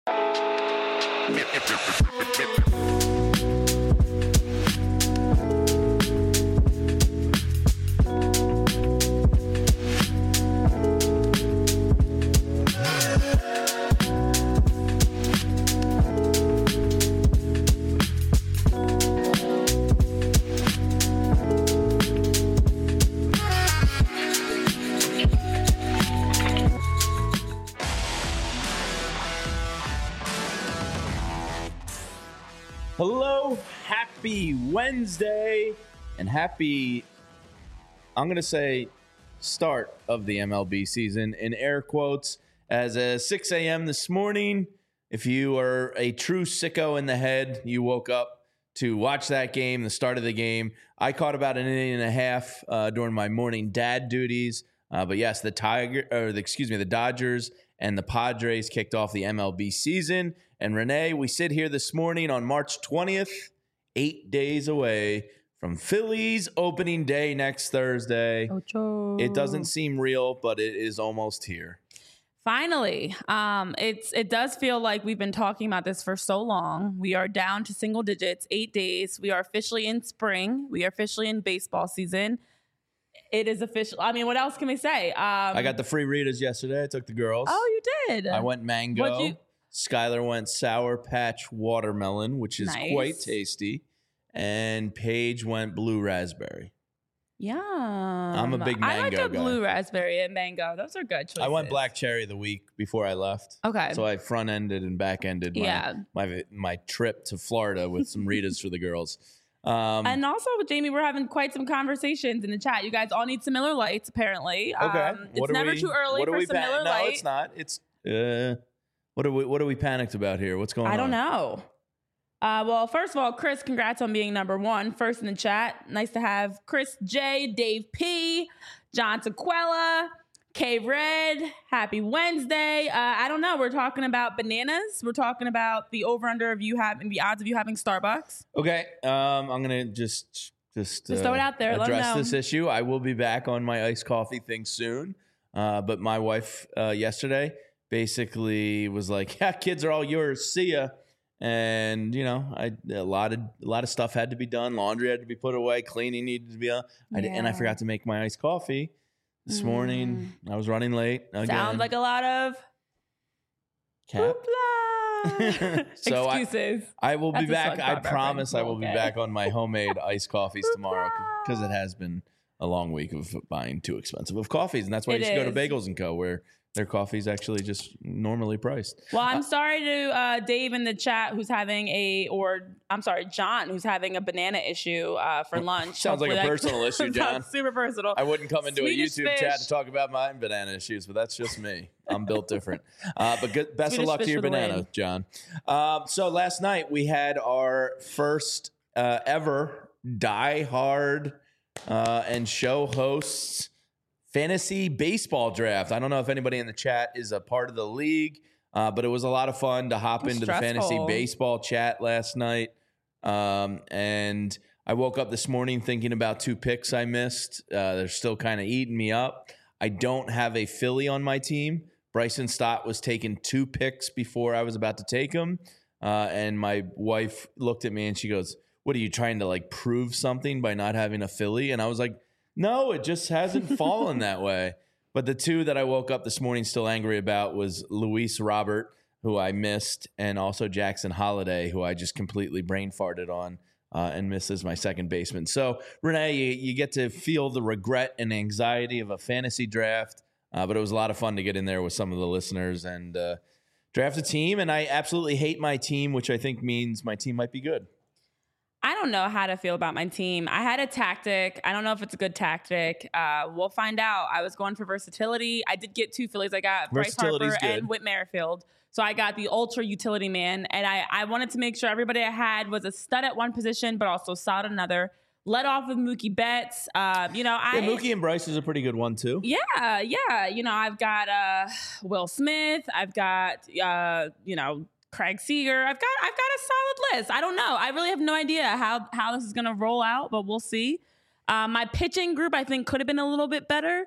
Hello, happy Wednesday, and happy, I'm going to say, start of the MLB season in air quotes. As of 6 a.m. this morning, if you are a true sicko in the head, you woke up to watch that game, the start of the game. I caught about an inning and a half during my morning dad duties. But yes, the Dodgers and the Padres kicked off the MLB season. And Renee, we sit here this morning on March 20th, 8 days away from Phillies opening day next Thursday. Ocho. It doesn't seem real, but it is almost here. Finally, it does feel like we've been talking about this for so long. We are down to single digits, 8 days. We are officially in spring. We are officially in baseball season. It is official. I mean, what else can we say? I got the free Ritas yesterday. I took the girls. Oh, you did? I went mango. Skylar went Sour Patch Watermelon, which is quite tasty. And Paige went blue raspberry. Yeah. I'm a big mango guy. I like the blue raspberry and mango. Those are good choices. I went black cherry the week before I left. Okay. So I front-ended and back-ended my trip to Florida with some Ritas for the girls. And also, Jamie, we're having quite some conversations in the chat. You guys all need some Miller Lights, apparently. Okay. It's never too early for some Miller Lite. No, it's not. It's what are we panicked about here? What's going on? I don't know. Well, first of all, Chris, congrats on being number one. First in the chat. Nice to have Chris J, Dave P, John Sequella, K Red. Happy Wednesday. I don't know. We're talking about bananas. We're talking about the over-under of the odds of you having Starbucks. Okay. I'm going to just throw it out there. Address this issue. I will be back on my iced coffee thing soon. But my wife yesterday basically was like, yeah, kids are all yours. See ya. And, you know, a lot of stuff had to be done. Laundry had to be put away. Cleaning needed to be done. And I forgot to make my iced coffee this morning. I was running late. Again. Sounds like a lot of So excuses. I will be back. I promise I will be back on my homemade iced coffees tomorrow because it has been a long week of buying too expensive of coffees. And that's why you should go to Bagels & Co. where their coffee is actually just normally priced. Well, I'm sorry to Dave in the chat John, who's having a banana issue for lunch. Sounds like a personal issue, John. Super personal. I wouldn't come into Swedish a YouTube chat to talk about my banana issues, but that's just me. I'm built different. But best of luck to your banana, John. So last night we had our first ever Die Hard and show hosts fantasy baseball draft. I don't know if anybody in the chat is a part of the league, but it was a lot of fun to hop into the fantasy baseball chat last night. And I woke up this morning thinking about two picks I missed. They're still kind of eating me up. I don't have a Philly on my team. Bryson Stott was taking 2 picks before I was about to take him. And my wife looked at me and she goes, "What are you trying to prove something by not having a Philly?" And I was like, no, it just hasn't fallen that way. But the two that I woke up this morning still angry about was Luis Robert, who I missed, and also Jackson Holiday, who I just completely brain farted on and missed as my second baseman. So, Renee, you get to feel the regret and anxiety of a fantasy draft, but it was a lot of fun to get in there with some of the listeners and draft a team. And I absolutely hate my team, which I think means my team might be good. I don't know how to feel about my team. I had a tactic. I don't know if it's a good tactic. We'll find out. I was going for versatility. I did get 2 Phillies. I got Bryce Harper and Whit Merrifield. So I got the ultra utility man. And I wanted to make sure everybody I had was a stud at one position, but also solid at another. Led off with Mookie Betts. Mookie and Bryce is a pretty good one, too. Yeah. I've got Will Smith. I've got, Craig Seager. I've got a solid list. I don't know. I really have no idea how this is going to roll out, but we'll see. My pitching group, I think, could have been a little bit better.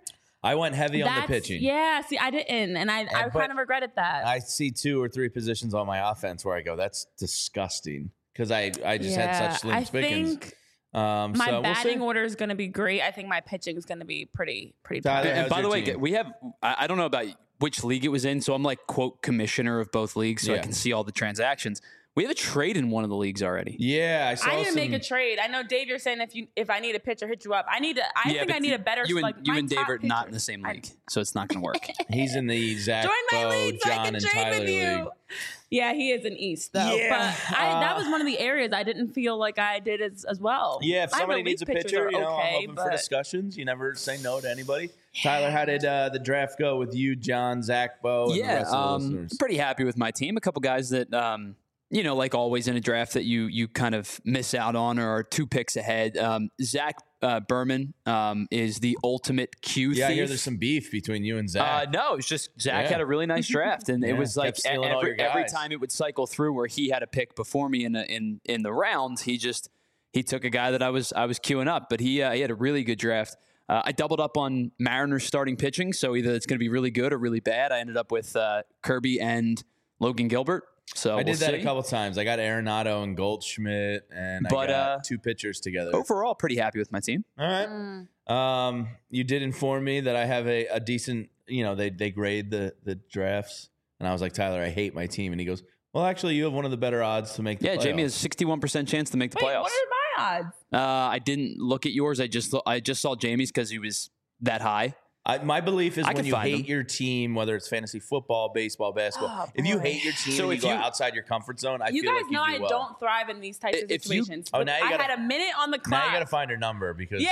I went heavy on the pitching. Yeah, see, I didn't, and I kind of regretted that. I see 2 or 3 positions on my offense where I go, that's disgusting, because I just had such slim pickings. My batting order is going to be great. I think my pitching is going to be pretty Tyler, and by the way, team? we have, I don't know about which league it was in, so I'm like, quote, commissioner of both leagues, so I can see all the transactions. We have a trade in one of the leagues already. Yeah, I need to make a trade. I know, Dave, you're saying if I need a pitcher, hit you up. I think I need a better. You and Dave are not in the same league, so it's not going to work. He's in the Zach, Join my Bo, league so John, I can and trade Tyler with you. league. Yeah, he is in East though. Yeah, but that was one of the areas I didn't feel like I did as well. Yeah, if somebody needs a pitcher, I'm open for but discussions. You never say no to anybody. Tyler, how did the draft go with you, John, Zach, Bo, and the rest of the listeners? Pretty happy with my team. A couple guys that like always in a draft that you kind of miss out on or are 2 picks ahead. Zach Berman is the ultimate Q thief. Yeah, I hear there's some beef between you and Zach. No, it's just Zach had a really nice draft, and it was like every time it would cycle through where he had a pick before me in the rounds, he took a guy that I was queuing up, but he had a really good draft. I doubled up on Mariners starting pitching, so either it's going to be really good or really bad. I ended up with Kirby and Logan Gilbert. So I did that a couple times. I got Arenado and Goldschmidt, and I got 2 pitchers together. Overall, pretty happy with my team. All right. You did inform me that I have a decent, they grade the drafts. And I was like, Tyler, I hate my team. And he goes, well, actually, you have one of the better odds to make the playoffs. Yeah, Jamie has 61% chance to make the playoffs. What are my odds? I didn't look at yours. I just saw Jamie's because he was that high. My belief is when you hate your team, whether it's fantasy football, baseball, basketball, if you hate your team and you go outside your comfort zone, I feel like you do well. You guys know I don't thrive in these types of situations. Now I had a minute on the clock. Now you got to find her number because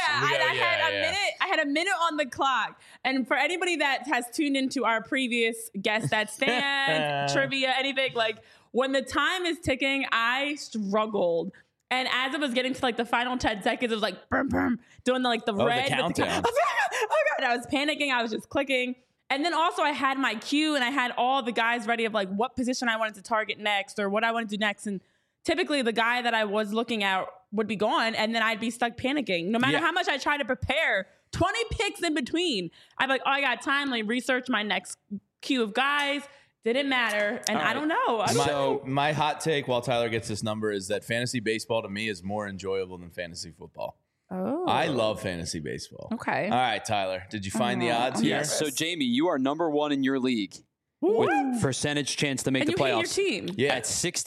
I had a minute on the clock. And for anybody that has tuned into our previous guest that stand trivia, anything like when the time is ticking, I struggled. And as it was getting to like the final 10 seconds, it was like, boom, boom, doing the red. The countdown. Oh God, I was panicking. I was just clicking. And then also I had my queue and I had all the guys ready of like what position I wanted to target next or what I wanted to do next. And typically the guy that I was looking at would be gone and then I'd be stuck panicking. No matter how much I try to prepare, 20 picks in between. I'm like, I got time. Let me research my next queue of guys. Didn't matter, and I don't know. My hot take while Tyler gets this number is that fantasy baseball to me is more enjoyable than fantasy football. Oh. I love fantasy baseball. Okay. All right, Tyler, did you find the odds here? Yes. So, Jamie, you are number 1 in your league with percentage chance to make the playoffs. And you hate your team. Yeah. At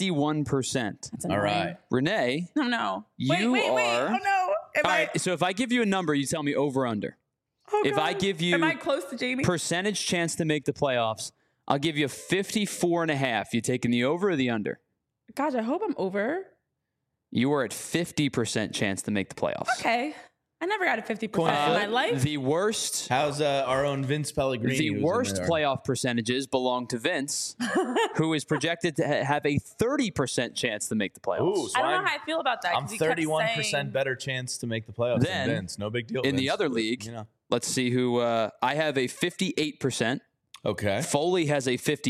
61%. That's annoying. All right. Renee. No. You wait. are. Oh, no. All right, so if I give you a number, you tell me over under. Oh, if I give you am I close to Jamie? Percentage chance to make the playoffs, I'll give you 54.5. You taking the over or the under? Gosh, I hope I'm over. You were at 50% chance to make the playoffs. Okay. I never got a 50% in my life. The worst. How's our own Vince Pellegrini? The worst playoff percentages belong to Vince, who is projected to have a 30% chance to make the playoffs. Ooh, so I don't know how I feel about that. I'm 31% better chance to make the playoffs than Vince. No big deal. In Vince, the other league, let's see who. I have a 58%. Okay. Foley has a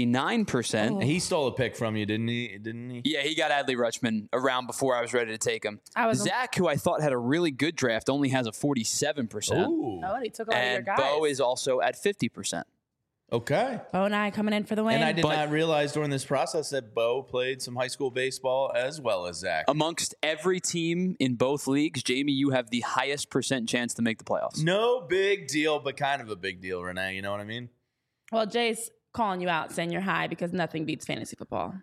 59%. He stole a pick from you, didn't he? Yeah, he got Adley Rutschman around before I was ready to take him. Zach, who I thought had a really good draft, only has a 47%. Ooh. Oh, he took all your guys. Bo is also at 50%. Okay. Bo and I coming in for the win. And I did not realize during this process that Bo played some high school baseball as well as Zach. Amongst every team in both leagues, Jamie, you have the highest % chance to make the playoffs. No big deal, but kind of a big deal, Renee. You know what I mean? Well, Jay's calling you out, saying you're high because nothing beats fantasy football.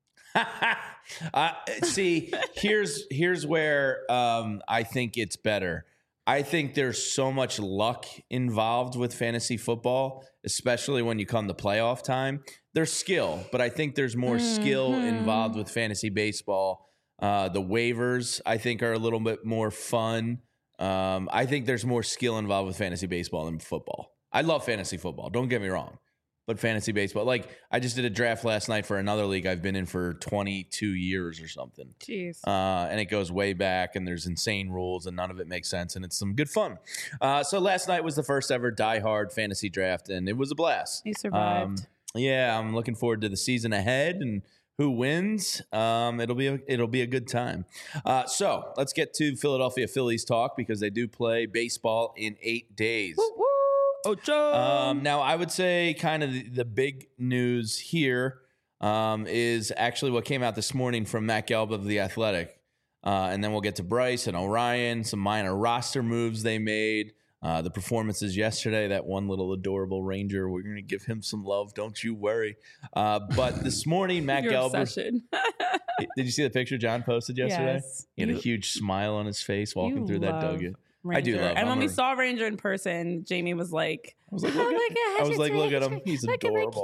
See, here's where I think it's better. I think there's so much luck involved with fantasy football, especially when you come to playoff time. There's skill, but I think there's more skill involved with fantasy baseball. The waivers, I think, are a little bit more fun. I think there's more skill involved with fantasy baseball than football. I love fantasy football. Don't get me wrong. But fantasy baseball, like I just did a draft last night for another league I've been in for 22 years or something. Jeez. And it goes way back and there's insane rules and none of it makes sense and it's some good fun. So last night was the first ever Die Hard fantasy draft and it was a blast. You survived. Yeah, I'm looking forward to the season ahead and who wins. It'll be a good time. So let's get to Philadelphia Phillies talk because they do play baseball in 8 days. Woo, woo. Ocho. Now, I would say kind of the big news here is actually what came out this morning from Matt Gelb of The Athletic. And then we'll get to Bryce and Orion, some minor roster moves they made. The performances yesterday, that one little adorable Ranger, we're going to give him some love. Don't you worry. But this morning, Matt Gelb. Did you see the picture John posted yesterday? Yes. He had a huge smile on his face walking through that dugget. Ranger. I do love him. And when we saw Ranger in person, Jamie was like, look at him. He's adorable.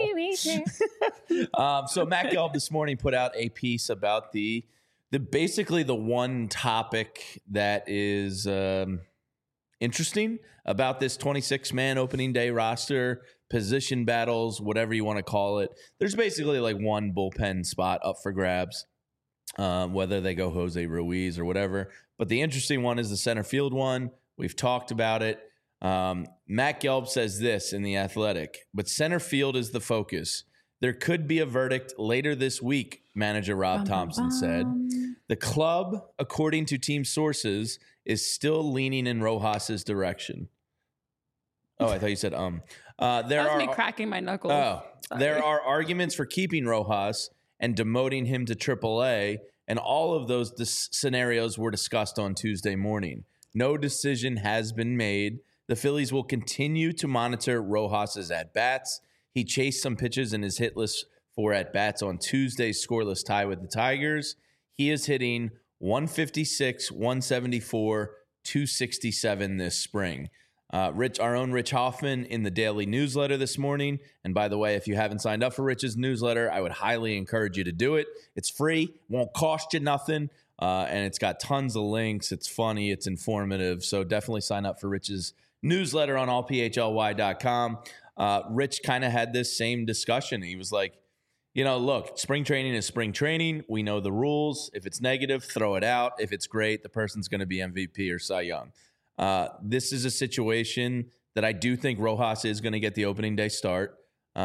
So Matt Gelb this morning put out a piece about the basically the one topic that is interesting about this 26-man opening day roster, position battles, whatever you want to call it. There's basically like one bullpen spot up for grabs, whether they go Jose Ruiz or whatever. But the interesting one is the center field one. We've talked about it. Matt Gelb says this in The Athletic, but center field is the focus. There could be a verdict later this week, manager Rob Thompson said. The club, according to team sources, is still leaning in Rojas's direction. Oh, I thought you said That was me cracking my knuckles. Oh, there are arguments for keeping Rojas and demoting him to AAA, and all of those scenarios were discussed on Tuesday morning. No decision has been made. The Phillies will continue to monitor Rojas's at-bats. He chased some pitches in his hit list for at-bats on Tuesday's scoreless tie with the Tigers. He is hitting 156, 174, 267 this spring. Our own Rich Hoffman in the daily newsletter this morning. And by the way, if you haven't signed up for Rich's newsletter, I would highly encourage you to do it. It's free, won't cost you nothing, and it's got tons of links. It's funny, it's informative. So definitely sign up for Rich's newsletter on allphly.com. Rich kind of had this same discussion. He was like, look, spring training is spring training. We know the rules. If it's negative, throw it out. If it's great, the person's going to be MVP or Cy Young. This is a situation that I do think Rojas is going to get the opening day start.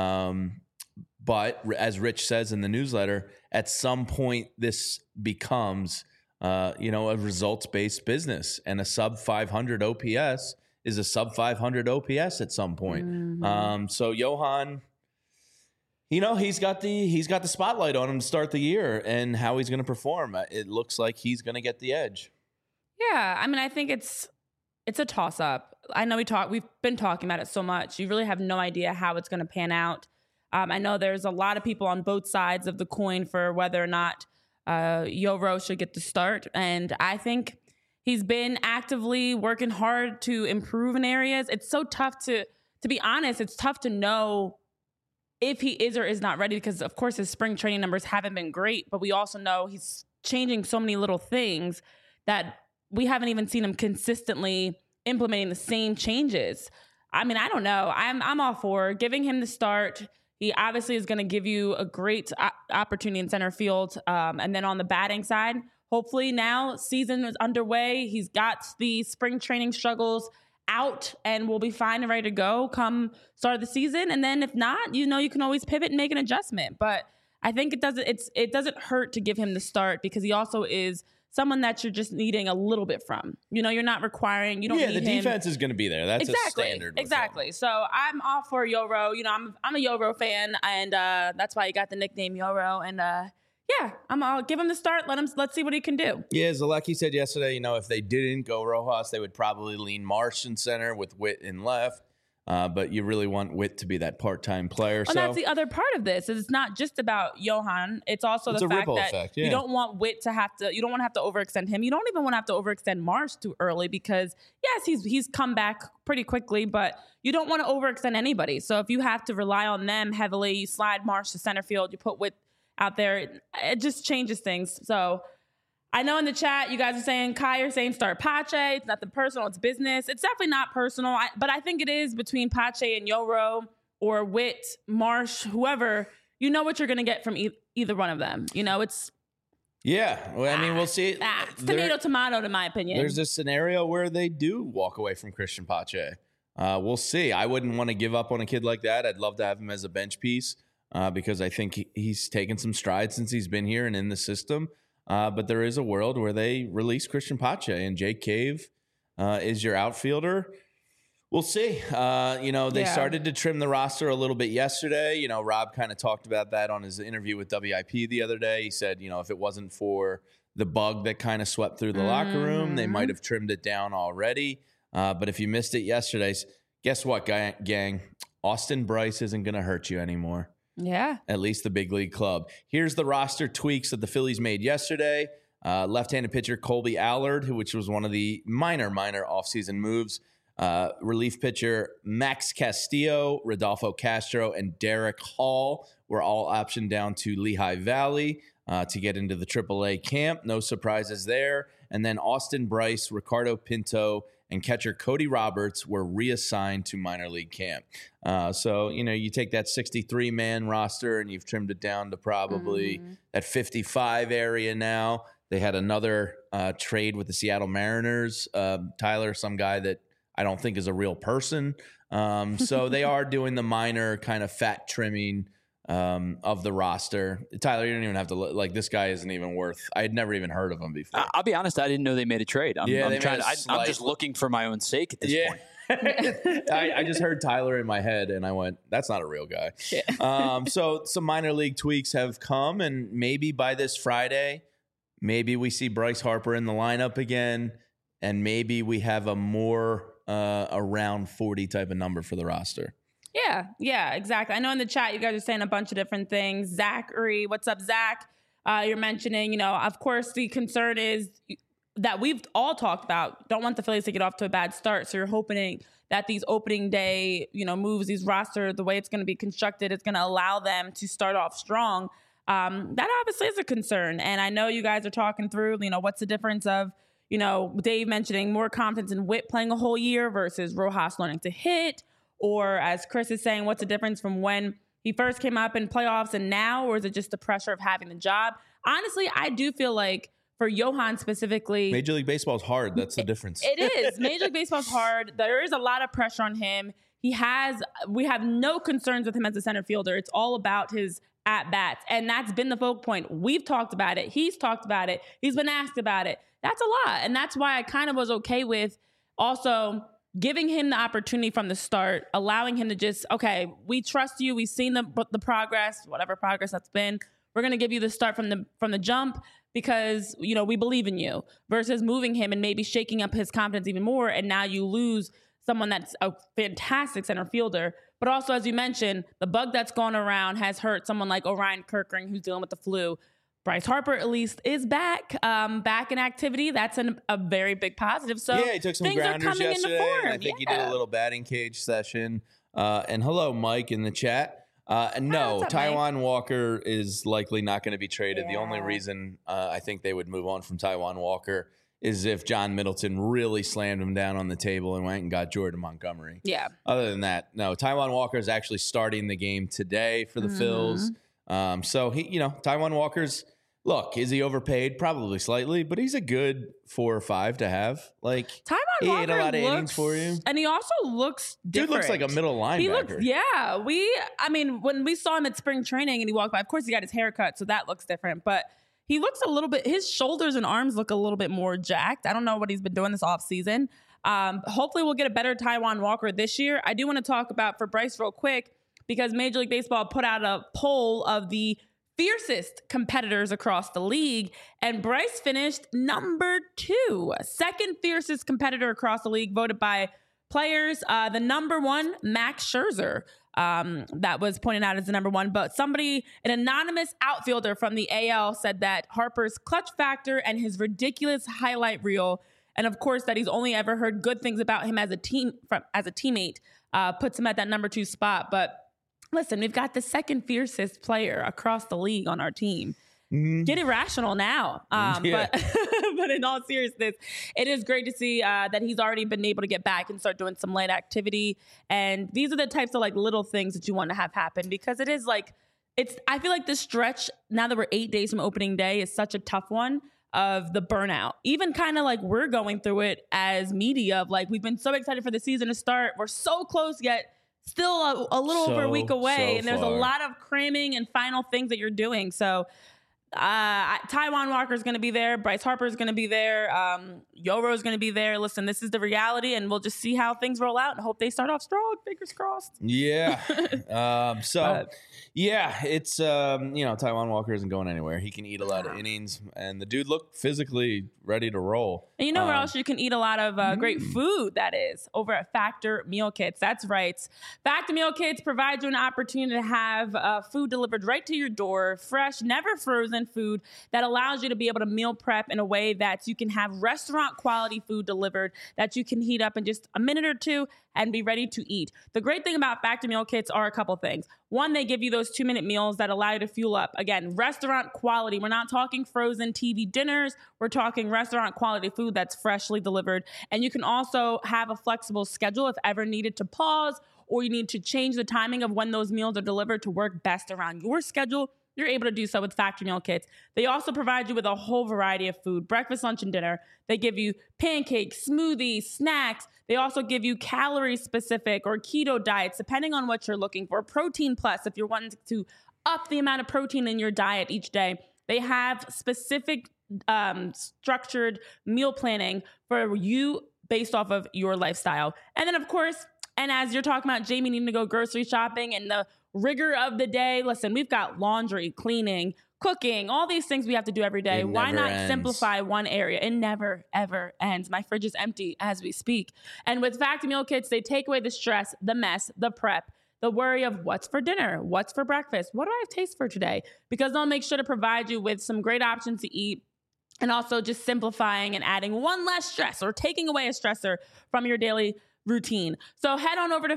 But as Rich says in the newsletter, at some point this becomes, a results-based business, and a sub 500 OPS is a sub 500 OPS at some point. Mm-hmm. So Johan, he's got the spotlight on him to start the year, and how he's going to perform. It looks like he's going to get the edge. Yeah, I mean, I think it's a toss-up. I know we've been talking about it so much. You really have no idea how it's going to pan out. I know there's a lot of people on both sides of the coin for whether or not Yoro should get the start. And I think he's been actively working hard to improve in areas. It's so tough to be honest, it's tough to know if he is or is not ready because, of course, his spring training numbers haven't been great. But we also know he's changing so many little things that we haven't even seen him consistently implementing the same changes. I mean, I don't know. I'm all for giving him the start. He obviously is going to give you a great opportunity in center field. And then on the batting side, hopefully now season is underway. He's got the spring training struggles out and we'll be fine and ready to go come start of the season. And then if not, you can always pivot and make an adjustment. But I think it doesn't hurt to give him the start because he also is someone that you're just needing a little bit from. You're not requiring, you don't need him. Yeah, the defense is going to be there. That's exactly, a standard. Exactly. So I'm all for Yoro. I'm a Yoro fan, and that's why he got the nickname Yoro. And I'll give him the start. Let's see what he can do. Yeah, Zalecki said yesterday, if they didn't go Rojas, they would probably lean Marsh in center with Witt in left. But you really want Witt to be that part-time player. Well, that's the other part of this. Is it's not just about Johan. It's also the fact that you don't want Witt to have to. You don't want to have to overextend him. You don't even want to have to overextend Marsh too early because yes, he's come back pretty quickly, but you don't want to overextend anybody. So if you have to rely on them heavily, you slide Marsh to center field. You put Witt out there. It just changes things. So. I know in the chat, you guys are saying, Kai are saying start Pache. It's nothing personal. It's business. It's definitely not personal. But I think it is between Pache and Yoro or Witt, Marsh, whoever. You know what you're going to get from either one of them. It's... Yeah. Well, I mean, we'll see. It's tomato, in my opinion. There's a scenario where they do walk away from Christian Pache. We'll see. I wouldn't want to give up on a kid like that. I'd love to have him as a bench piece because I think he's taken some strides since he's been here and in the system. But there is a world where they release Christian Pache and Jake Cave is your outfielder. We'll see. They started to trim the roster a little bit yesterday. Rob kind of talked about that on his interview with WIP the other day. He said, if it wasn't for the bug that kind of swept through the locker room, they might have trimmed it down already. But if you missed it yesterday, guess what, gang? Austin Brice isn't going to hurt you anymore. Yeah. At least the big league club. Here's the roster tweaks that the Phillies made yesterday. Left-handed pitcher Colby Allard, which was one of the minor offseason moves. Relief pitcher Max Castillo, Rodolfo Castro, and Derek Hall were all optioned down to Lehigh Valley to get into the AAA camp. No surprises there. And then Austin Brice, Ricardo Pinto, and catcher Cody Roberts were reassigned to minor league camp. So, you take that 63-man roster and you've trimmed it down to probably that 55 area now. They had another trade with the Seattle Mariners. Tyler, some guy that I don't think is a real person. So they are doing the minor kind of fat trimming of the roster. Tyler, you don't even have to look. Like, this guy isn't even worth. I had never even heard of him before. I'll be honest, I didn't know they made a trade. I'm just looking for my own sake at this point. I just heard Tyler in my head and I went, that's not a real guy. Yeah. So some minor league tweaks have come, and maybe by this Friday, maybe we see Bryce Harper in the lineup again, and maybe we have a more around 40 type of number for the roster. Yeah, exactly. I know in the chat you guys are saying a bunch of different things. Zachary, what's up, Zach? You're mentioning, of course, the concern is that we've all talked about. Don't want the Phillies to get off to a bad start. So you're hoping that these opening day, moves, these roster, the way it's going to be constructed, it's going to allow them to start off strong. That obviously is a concern. And I know you guys are talking through, what's the difference of, Dave mentioning more confidence in Witt playing a whole year versus Rojas learning to hit. Or as Chris is saying, what's the difference from when he first came up in playoffs and now? Or is it just the pressure of having the job? Honestly, I do feel like for Johan specifically, Major League Baseball is hard. That's the difference. It is. Major League Baseball is hard. There is a lot of pressure on him. We have no concerns with him as a center fielder. It's all about his at-bats. And that's been the focal point. We've talked about it. He's talked about it. He's been asked about it. That's a lot. And that's why I kind of was okay with also giving him the opportunity from the start, allowing him to just, okay, we trust you. We've seen the progress, whatever progress that's been. We're going to give you the start from the jump because, we believe in you, versus moving him and maybe shaking up his confidence even more. And now you lose someone that's a fantastic center fielder. But also, as you mentioned, the bug that's gone around has hurt someone like Orion Kirkring, who's dealing with the flu. Bryce Harper, at least, is back in activity. That's a very big positive. So yeah, he took some grounders yesterday. And I think he did a little batting cage session. And hello, Mike, in the chat. And no, Taijuan Walker is likely not going to be traded. Yeah. The only reason I think they would move on from Taijuan Walker is if John Middleton really slammed him down on the table and went and got Jordan Montgomery. Yeah. Other than that, no. Taijuan Walker is actually starting the game today for the Phils. So he, Taijuan Walker's. Look, is he overpaid? Probably slightly, but he's a good 4 or 5 to have. Like, Taijuan he Walker ate a lot of innings for you. And he also looks different. Dude looks like a middle linebacker. When we saw him at spring training and he walked by, of course he got his hair cut, so that looks different. But he looks a little bit, his shoulders and arms look a little bit more jacked. I don't know what he's been doing this offseason. Hopefully we'll get a better Taijuan Walker this year. I do want to talk about for Bryce real quick, because Major League Baseball put out a poll of the fiercest competitors across the league, and Bryce finished number 2, second fiercest competitor across the league, voted by players. The number 1, Max Scherzer, that was pointed out as the number 1, but an anonymous outfielder from the AL said that Harper's clutch factor and his ridiculous highlight reel, and of course that he's only ever heard good things about him as a teammate, puts him at that number 2 spot. But listen, we've got the second fiercest player across the league on our team. Get irrational now. But in all seriousness, it is great to see that he's already been able to get back and start doing some light activity. And these are the types of little things that you want to have happen, because it is I feel like this stretch, now that we're 8 days from opening day, is such a tough one of the burnout. Even kind of we're going through it as media of we've been so excited for the season to start. We're so close, yet still a little over a week away, and there's a lot of cramming and final things that you're doing. So Taijuan Walker is going to be there. Bryce Harper is going to be there. Yoro is going to be there. Listen, this is the reality, and we'll just see how things roll out and hope they start off strong. Fingers crossed. Yeah. It's, Taijuan Walker isn't going anywhere. He can eat a lot of innings, and the dude looked physically ready to roll. And you know where else you can eat a lot of great food, that is? Over at Factor Meal Kits. That's right. Factor Meal Kits provide you an opportunity to have food delivered right to your door, fresh, never frozen food that allows you to be able to meal prep in a way that you can have restaurant quality food delivered that you can heat up in just a minute or two and be ready to eat. The great thing about Factor Meal Kits are a couple things. One, they give you those 2-minute meals that allow you to fuel up. Again, restaurant quality. We're not talking frozen TV dinners. We're talking restaurant quality food that's freshly delivered. And you can also have a flexible schedule if ever needed to pause or you need to change the timing of when those meals are delivered to work best around your schedule. You're able to do so with Factor Meal Kits. They also provide you with a whole variety of food, breakfast, lunch, and dinner. They give you pancakes, smoothies, snacks. They also give you calorie-specific or keto diets, depending on what you're looking for. Protein Plus, if you're wanting to up the amount of protein in your diet each day. They have specific structured meal planning for you based off of your lifestyle. And then, of course, and as you're talking about Jamie needing to go grocery shopping and the rigor of the day, listen, we've got laundry, cleaning, cooking, all these things we have to do every day. Why not simplify one area? It never, ever ends. My fridge is empty as we speak. And with Factor Meal Kits, they take away the stress, the mess, the prep, the worry of what's for dinner, what's for breakfast, what do I have taste for today? Because they'll make sure to provide you with some great options to eat and also just simplifying and adding one less stress or taking away a stressor from your daily routine. So head on over to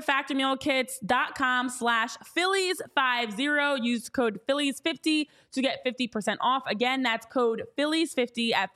factormealkits.com/Phillies50. Use code Phillies50 to get 50% off. Again, that's code Phillies50 at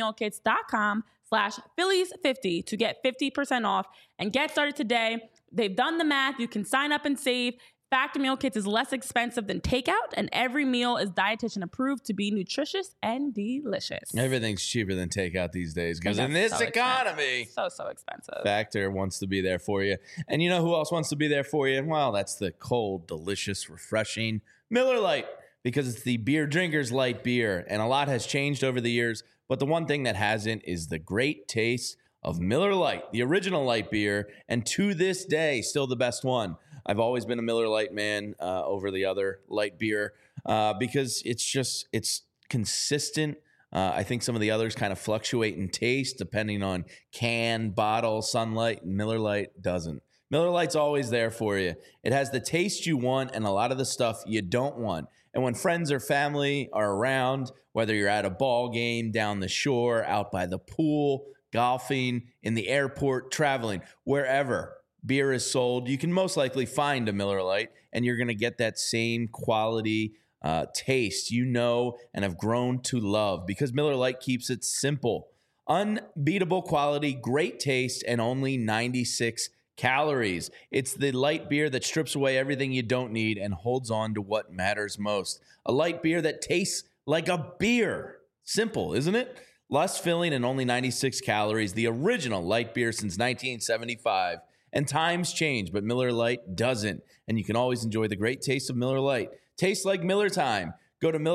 factormealkits.com/Phillies50 to get 50% off and get started today. They've done the math. You can sign up and save. Factor Meal Kits is less expensive than takeout, and every meal is dietitian approved to be nutritious and delicious. Everything's cheaper than takeout these days because in this economy, so expensive. Factor wants to be there for you. And you know who else wants to be there for you? Well, that's the cold, delicious, refreshing Miller Lite, because it's the beer drinker's light beer. And a lot has changed over the years, but the one thing that hasn't is the great taste of Miller Lite, the original light beer, and to this day, still the best one. I've always been a Miller Lite man over the other light beer because it's consistent. I think some of the others kind of fluctuate in taste depending on can, bottle, sunlight. Miller Lite doesn't. Miller Lite's always there for you. It has the taste you want and a lot of the stuff you don't want. And when friends or family are around, whether you're at a ball game, down the shore, out by the pool, golfing, in the airport, traveling, wherever beer is sold, you can most likely find a Miller Lite, and you're going to get that same quality taste you know and have grown to love, because Miller Lite keeps it simple. Unbeatable quality, great taste, and only 96 calories. It's the light beer that strips away everything you don't need and holds on to what matters most. A light beer that tastes like a beer. Simple, isn't it? Less filling and only 96 calories. The original light beer since 1975. And times change, but Miller Lite doesn't. And you can always enjoy the great taste of Miller Lite. Tastes like Miller time. Go to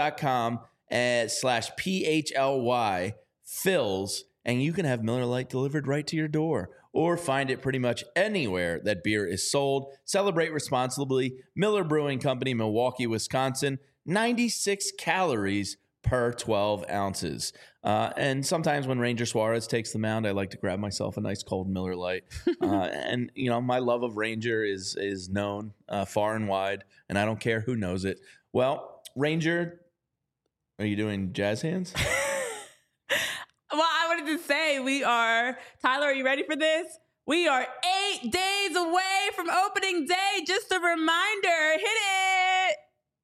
MillerLite.com/PHLY Phils, and you can have Miller Lite delivered right to your door, or find it pretty much anywhere that beer is sold. Celebrate responsibly. Miller Brewing Company, Milwaukee, Wisconsin. 96 calories per 12 ounces. And sometimes when Ranger Suarez takes the mound, I like to grab myself a nice cold Miller Lite. And, you know, my love of Ranger is known far and wide, and I don't care who knows it. Well, Ranger, are you doing jazz hands? Well, I wanted to say Tyler, are you ready for this? We are 8 days away from opening day. Just a reminder, hit it.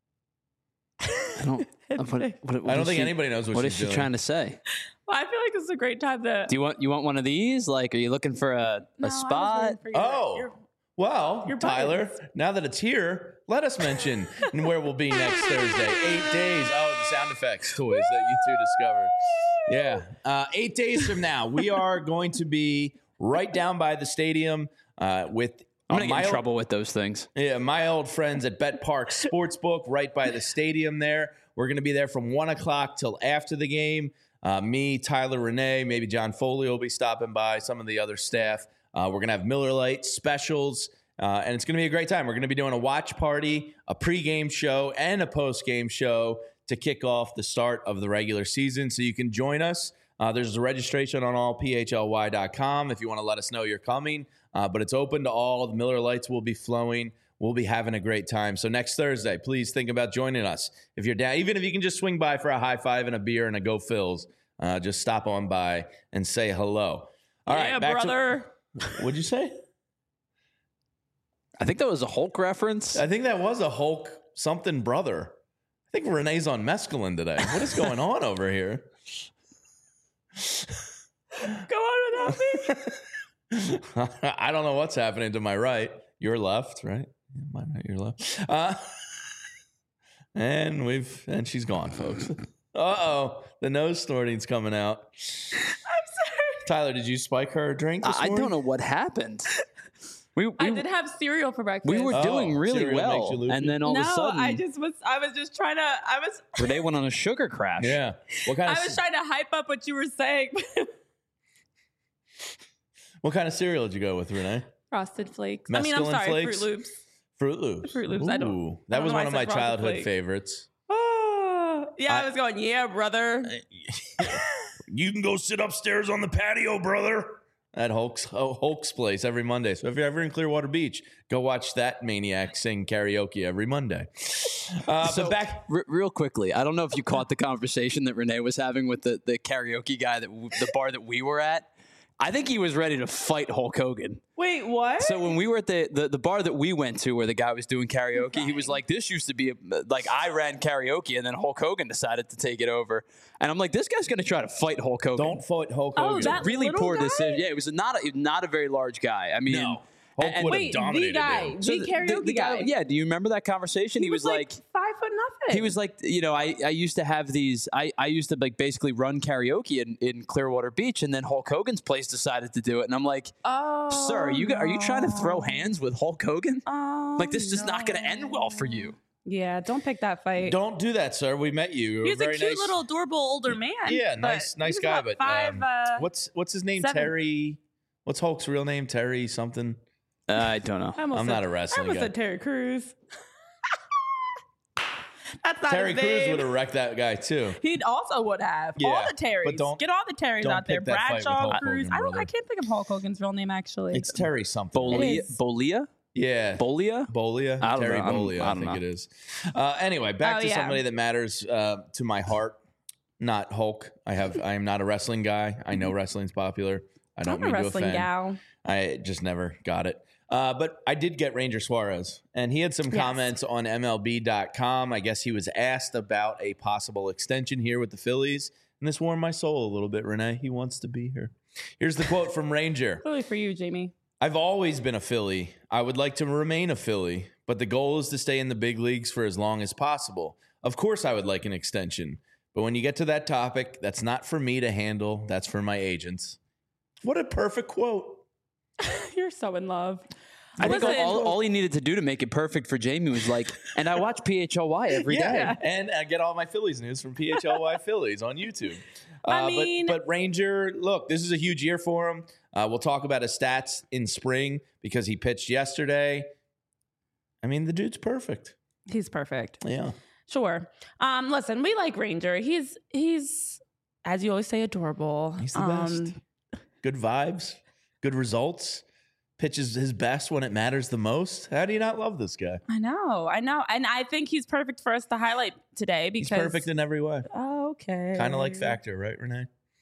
I don't think anybody knows what she's doing. Trying to say? Well, I feel like this is a great time to. Do you want one of these? Like, are you looking for a spot? Tyler, now that it's here, let us mention where we'll be next Thursday. 8 days. Oh, the sound effects toys that you two discovered. Yeah. 8 days from now, we are going to be right down by the stadium with. I'm going to get in trouble with those things. Yeah, my old friends at Bet Park Sportsbook right by the stadium there. We're going to be there from 1 o'clock till after the game. Me, Tyler, Renee, maybe John Foley will be stopping by, some of the other staff. We're going to have Miller Lite specials, and it's going to be a great time. We're going to be doing a watch party, a pregame show, and a postgame show to kick off the start of the regular season. So you can join us. There's a registration on allphly.com if you want to let us know you're coming. But it's open to all. The Miller Lights will be flowing. We'll be having a great time. So next Thursday, please think about joining us. If you're down, even if you can just swing by for a high five and a beer and a Go Phils, just stop on by and say hello. All right, brother. What'd you say? I think that was a Hulk reference. I think that was a Hulk something brother. I think Renee's on mescaline today. What is going on over here? Go on without me. I don't know what's happening to my right. Your left, right? My right, your left. And she's gone, folks. Uh-oh. The nose snorting's coming out. I'm sorry. Tyler, did you spike her a drink this morning? I don't know what happened. I did have cereal for breakfast. We were doing really well, and then all of a sudden, I was just trying to. Renee went on a sugar crash. Yeah. What kind I was trying to hype up what you were saying. What kind of cereal did you go with, Renee? Frosted Flakes. Mescaline I'm sorry, Flakes? Fruit Loops. Fruit Loops. Fruit Loops. Ooh, that was one of my childhood favorites. Oh, yeah, I was going, yeah, brother. You can go sit upstairs on the patio, brother. At Hulk's place every Monday. So if you're ever in Clearwater Beach, go watch that maniac sing karaoke every Monday. So back real quickly, I don't know if you caught the conversation that Renee was having with the karaoke guy, the bar that we were at. I think he was ready to fight Hulk Hogan. Wait, what? So when we were at the bar that we went to where the guy was doing karaoke, he was like, this used to be I ran karaoke and then Hulk Hogan decided to take it over. And I'm like, this guy's going to try to fight Hulk Hogan. Don't fight Hulk Hogan. That really poor guy? decision. Yeah, it was not a very large guy. I mean, no. Hulk would have dominated him. The karaoke guy. Yeah, do you remember that conversation? He was like 5'0". He was like, I used to have these. I used to basically run karaoke in Clearwater Beach, and then Hulk Hogan's place decided to do it, and I'm like, sir, are you trying to throw hands with Hulk Hogan? This is not going to end well for you. Yeah, don't pick that fight. Don't do that, sir. We met you. He was a cute little adorable older man. Yeah, nice guy. But what's his name? 7. Terry. What's Hulk's real name? Terry something. I don't know. I'm not a wrestling guy. I almost said Terry Crews. That's not Terry his name. Crews would have wrecked that guy too. He also would have. Yeah, all the Terrys. Get all the Terrys out there. Bradshaw, Crews. I can't think of Hulk Hogan's real name actually. It's Terry something. Bolia? Yeah. Bolia? I don't Terry know. Bolia, I think it is. Anyway, back to somebody that matters to my heart. Not Hulk. I am not a wrestling guy. I know wrestling's popular. I don't mean to offend. I'm a wrestling gal. I just never got it. But I did get Ranger Suarez, and he had some comments on MLB.com. I guess he was asked about a possible extension here with the Phillies, and this warmed my soul a little bit, Renee. He wants to be here. Here's the quote from Ranger. Really for you, Jamie. I've always been a Philly. I would like to remain a Philly, but the goal is to stay in the big leagues for as long as possible. Of course, I would like an extension, but when you get to that topic, that's not for me to handle. That's for my agents. What a perfect quote. You're so in love. I think all he needed to do to make it perfect for Jamie was and I watch PHLY every day. And I get all my Phillies news from PHLY Phillies on YouTube. But Ranger, look, this is a huge year for him. We'll talk about his stats in spring because he pitched yesterday. I mean, the dude's perfect. He's perfect. Yeah. Sure. Listen, we like Ranger. He's as you always say, adorable. He's the best. Good vibes. Good results, pitches his best when it matters the most. How do you not love this guy? I know. And I think he's perfect for us to highlight today because... He's perfect in every way. Oh, okay. Kind of like Factor, right, Renee?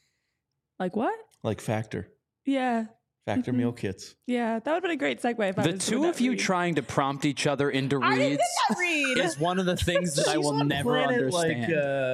Like what? Like Factor. Yeah. Factor meal kits. Yeah, that would have been a great segue. If the two of you trying to prompt each other into reads is one of the things that I will never understand.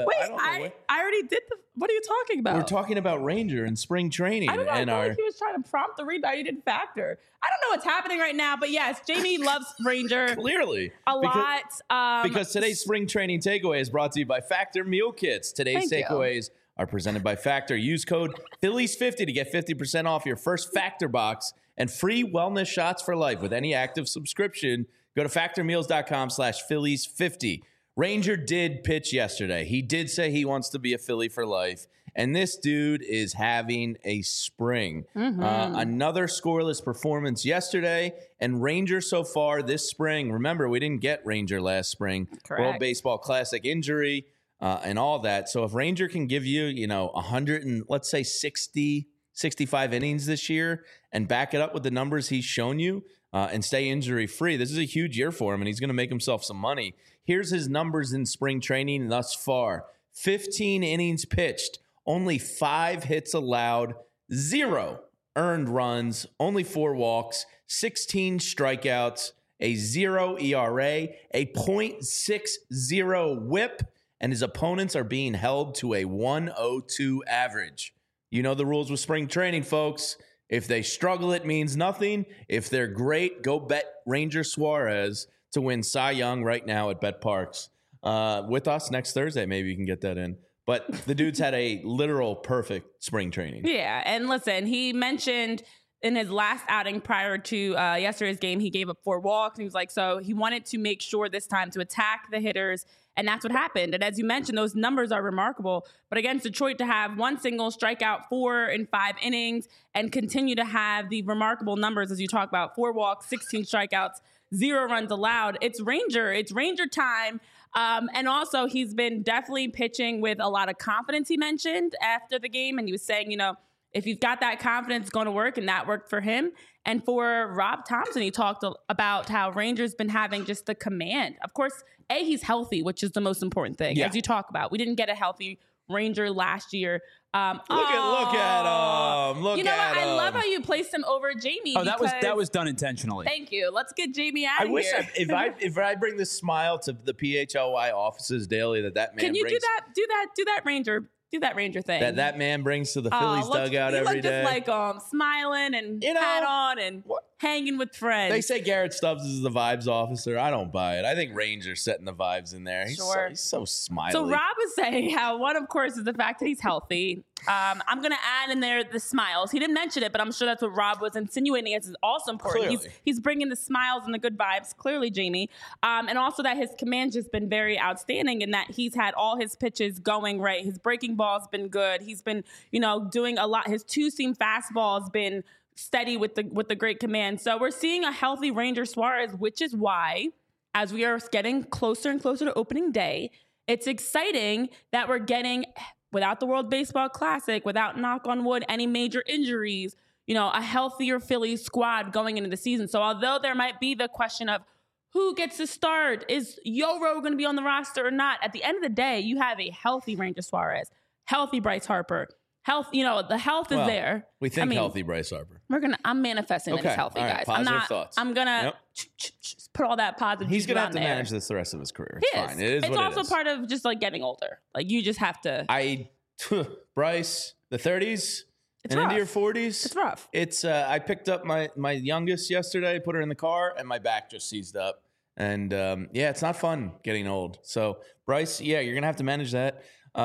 I already did what are you talking about? We're talking about Ranger and spring training. I don't know. I feel like he was trying to prompt the read. Now you did Factor. I don't know what's happening right now, but yes, Jamie loves Ranger. Clearly. A lot. Because today's spring training takeaway is brought to you by Factor Meal Kits. Today's takeaways are presented by Factor. Use code Phillies50 to get 50% off your first Factor box and free wellness shots for life with any active subscription. Go to factormeals.com/Phillies50. Ranger did pitch yesterday. He did say he wants to be a Philly for life. And this dude is having a spring. Another scoreless performance yesterday. And Ranger so far this spring, remember, we didn't get Ranger last spring. Correct. World Baseball Classic injury and all that. So if Ranger can give you, 100 and let's say 60, 65 innings this year and back it up with the numbers he's shown you and stay injury free, this is a huge year for him and he's going to make himself some money. Here's his numbers in spring training thus far. 15 innings pitched. Only 5 hits allowed, 0 earned runs, only 4 walks, 16 strikeouts, a 0 ERA, a .60 whip, and his opponents are being held to a 102 average. You know the rules with spring training, folks. If they struggle, it means nothing. If they're great, go bet Ranger Suarez to win Cy Young right now at Bet Parks. With us next Thursday, maybe you can get that in. But the dude's had a literal perfect spring training. Yeah, and listen, he mentioned in his last outing prior to yesterday's game, he gave up 4 walks. And he was like, so he wanted to make sure this time to attack the hitters, and that's what happened. And as you mentioned, those numbers are remarkable. But against Detroit, to have 1 single, strike out 4 in 5 innings, and continue to have the remarkable numbers, as you talk about, 4 walks, 16 strikeouts, 0 runs allowed. It's Ranger time. And also, he's been definitely pitching with a lot of confidence, he mentioned after the game. And he was saying, if you've got that confidence, it's going to work. And that worked for him. And for Rob Thompson, he talked about how Ranger's been having just the command. Of course, he's healthy, which is the most important thing, as you talk about. We didn't get a healthy Ranger last year. Look at him. Look at him. I love how you placed him over Jamie. Oh, that was done intentionally. Thank you. Let's get Jamie out of here. I wish if I bring this smile to the PHLY offices daily that man Can you brings, do that Ranger thing that man brings to the Phillies dugout every day. Just like smiling and hat on and hanging with friends. They say Garrett Stubbs is the vibes officer. I don't buy it. I think Ranger's setting the vibes in there. He's so smiley. So Rob is saying how one, of course, is the fact that he's healthy. I'm going to add in there the smiles. He didn't mention it, but I'm sure that's what Rob was insinuating. It's also important. He's bringing the smiles and the good vibes, clearly, Jamie. And also that his command's just been very outstanding and that he's had all his pitches going right. His breaking ball's been good. He's been, doing a lot. His 2-seam fastball has been steady with the great command. So we're seeing a healthy Ranger Suarez, which is why, as we are getting closer and closer to opening day, it's exciting that we're getting, without the World Baseball Classic, without, knock on wood, any major injuries, a healthier Phillies squad going into the season. So although there might be the question of who gets to start, is Yoro going to be on the roster or not? At the end of the day, you have a healthy Ranger Suarez, healthy Bryce Harper. Health, the health is there. We think healthy Bryce Harper. I'm manifesting that he's healthy, guys. Positive thoughts. I'm gonna put all that positive. He's gonna have to manage this the rest of his career. It's fine. It's also part of just like getting older. Like you just have to. Bryce, the 30s and into your 40s. It's rough. It's. I picked up my youngest yesterday, put her in the car, and my back just seized up. And it's not fun getting old. So Bryce, you're gonna have to manage that.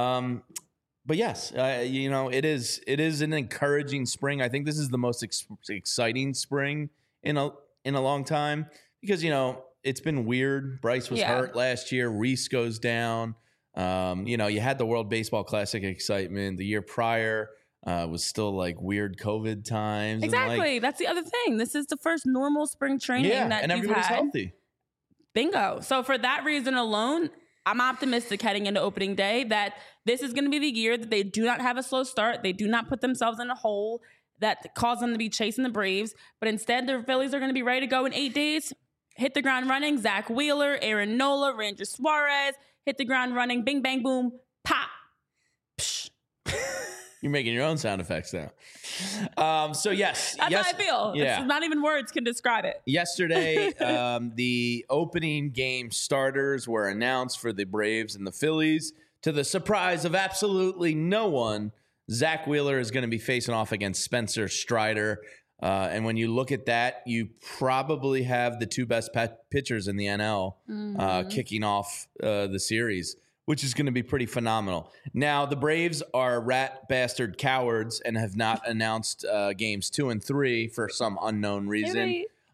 But yes, it is an encouraging spring. I think this is the most exciting spring in a long time because, it's been weird. Bryce was hurt last year. Reese goes down. You had the World Baseball Classic excitement. The year prior was still like weird COVID times. Exactly. That's the other thing. This is the first normal spring training that and everybody's healthy. Bingo. So for that reason alone, I'm optimistic heading into opening day that this is going to be the year that they do not have a slow start. They do not put themselves in a hole that caused them to be chasing the Braves. But instead, the Phillies are going to be ready to go in 8 days. Hit the ground running. Zach Wheeler, Aaron Nola, Ranger Suarez. Hit the ground running. Bing, bang, boom. Pop. Psh. You're making your own sound effects now. So yes. That's how I feel. Yeah. It's not even words can describe it. Yesterday, the opening game starters were announced for the Braves and the Phillies. To the surprise of absolutely no one, Zach Wheeler is going to be facing off against Spencer Strider. And when you look at that, you probably have the 2 best pitchers in the NL kicking off the series, which is going to be pretty phenomenal. Now, the Braves are rat bastard cowards and have not announced games 2 and 3 for some unknown reason.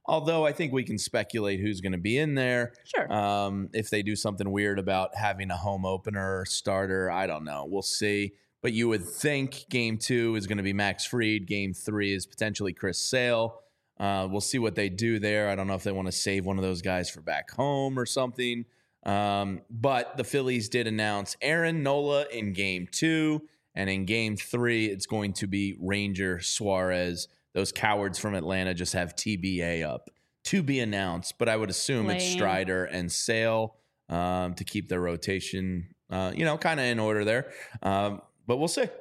Although I think we can speculate who's going to be in there. Sure. If they do something weird about having a home opener starter, I don't know. We'll see. But you would think Game 2 is going to be Max Fried. Game 3 is potentially Chris Sale. We'll see what they do there. I don't know if they want to save one of those guys for back home or something. But the Phillies did announce Aaron Nola in Game 2. And in Game 3, it's going to be Ranger Suarez. Those cowards from Atlanta just have TBA up to be announced. But I would assume it's Strider and Sale to keep their rotation, kind of in order there. But we'll see.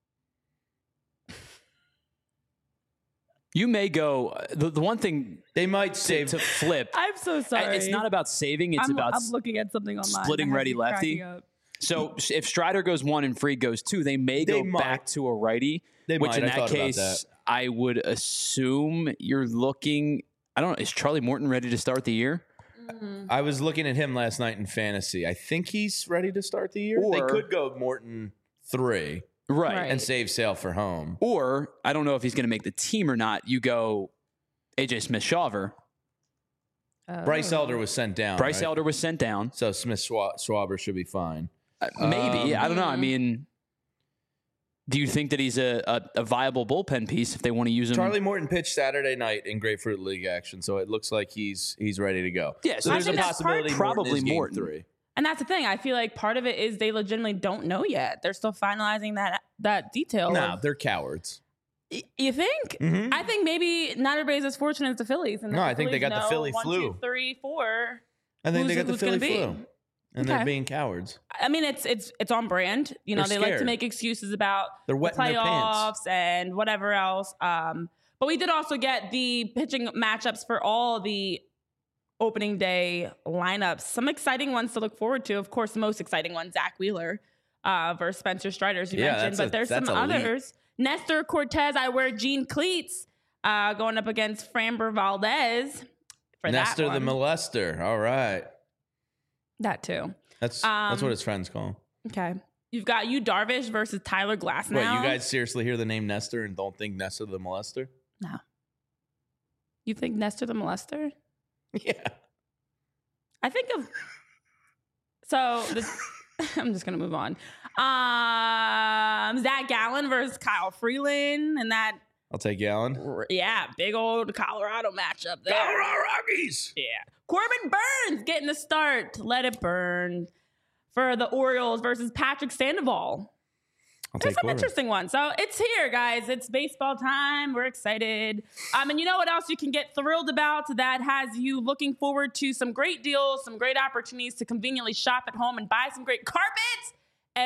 You may go. The one thing they might save to flip. I'm so sorry. It's not about saving. It's about I'm looking at something online. Splitting righty lefty. So if Strider goes 1 and Fried goes 2, they may go back to a righty. Which in that case, I would assume you're looking. I don't know. Is Charlie Morton ready to start the year? I was looking at him last night in fantasy. I think he's ready to start the year. They could go Morton 3. Right. And save Sale for home. Or, I don't know if he's going to make the team or not. You go A.J. Smith-Shawver. Bryce Elder was sent down. Elder was sent down. So Smith-Shawver should be fine. Maybe. I don't know. I mean, do you think that he's a viable bullpen piece if they want to use him? Charlie Morton pitched Saturday night in Grapefruit League action, so it looks like he's ready to go. Yeah, so there's a possibility probably Morton. 3. And that's the thing. I feel like part of it is they legitimately don't know yet. They're still finalizing that detail. No, they're cowards. You think? Mm-hmm. I think maybe not everybody's as fortunate as the Phillies. And I think they got the Philly flu. 1, 2, 3, 4. I think they got the Philly flu. And they're being cowards. I mean, it's on brand. They like to make excuses about the playoffs and whatever else. But we did also get the pitching matchups for all the opening day lineups. Some exciting ones to look forward to. Of course, the most exciting one, Zach Wheeler versus Spencer Strider, as you mentioned. But there's some others. Nestor Cortez, I wear jean cleats, going up against Framber Valdez for Nestor that one. the molester. All right. That too. That's what his friends call him. Okay. You've got Darvish versus Tyler Glasnow. Wait, you guys seriously hear the name Nestor and don't think Nestor the molester? No. You think Nestor the molester? Yeah. I think of... So, I'm just going to move on. Zach Gallen versus Kyle Freeland. And that... I'll take Gallen. Yeah, big old Colorado matchup there. Colorado Rockies. Yeah. Corbin Burns getting the start. Let it burn. For the Orioles versus Patrick Sandoval. There's some interesting ones. So it's here, guys. It's baseball time. We're excited. And you know what else you can get thrilled about that has you looking forward to some great deals, some great opportunities to conveniently shop at home and buy some great carpets?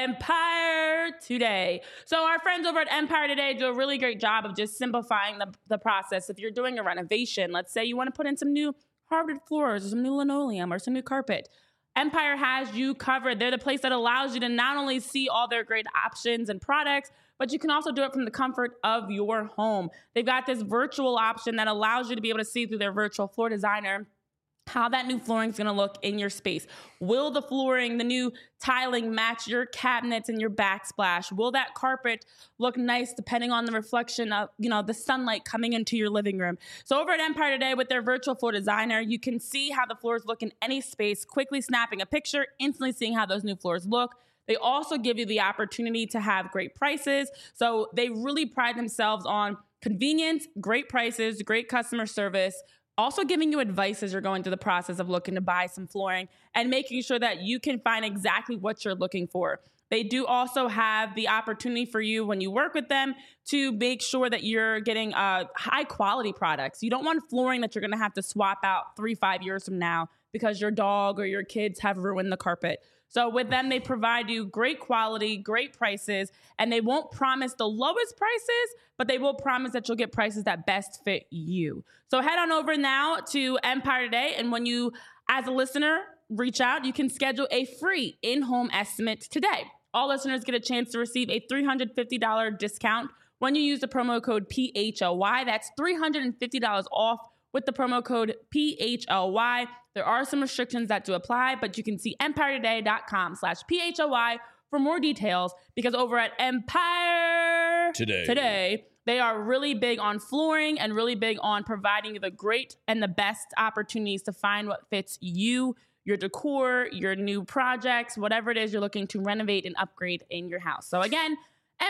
Empire Today. So our friends over at Empire Today do a really great job of just simplifying the process. If you're doing a renovation, let's say you want to put in some new hardwood floors or some new linoleum or some new carpet, Empire has you covered. They're the place that allows you to not only see all their great options and products, but you can also do it from the comfort of your home. They've got this virtual option that allows you to be able to see through their virtual floor designer how that new flooring is going to look in your space. Will the flooring, the new tiling match your cabinets and your backsplash? Will that carpet look nice depending on the reflection of, the sunlight coming into your living room? So over at Empire Today with their virtual floor designer, you can see how the floors look in any space, quickly snapping a picture, instantly seeing how those new floors look. They also give you the opportunity to have great prices. So they really pride themselves on convenience, great prices, great customer service, also giving you advice as you're going through the process of looking to buy some flooring and making sure that you can find exactly what you're looking for. They do also have the opportunity for you when you work with them to make sure that you're getting high quality products. You don't want flooring that you're going to have to swap out 3-5 years from now because your dog or your kids have ruined the carpet. So with them, they provide you great quality, great prices, and they won't promise the lowest prices, but they will promise that you'll get prices that best fit you. So head on over now to Empire Today, and when you, as a listener, reach out, you can schedule a free in-home estimate today. All listeners get a chance to receive a $350 discount when you use the promo code PHLY. That's $350 off with the promo code PHLY. There are some restrictions that do apply, but you can see EmpireToday.com/PHLY for more details, because over at Empire Today, They are really big on flooring and really big on providing you the great and the best opportunities to find what fits you, your decor, your new projects, whatever it is you're looking to renovate and upgrade in your house. So again,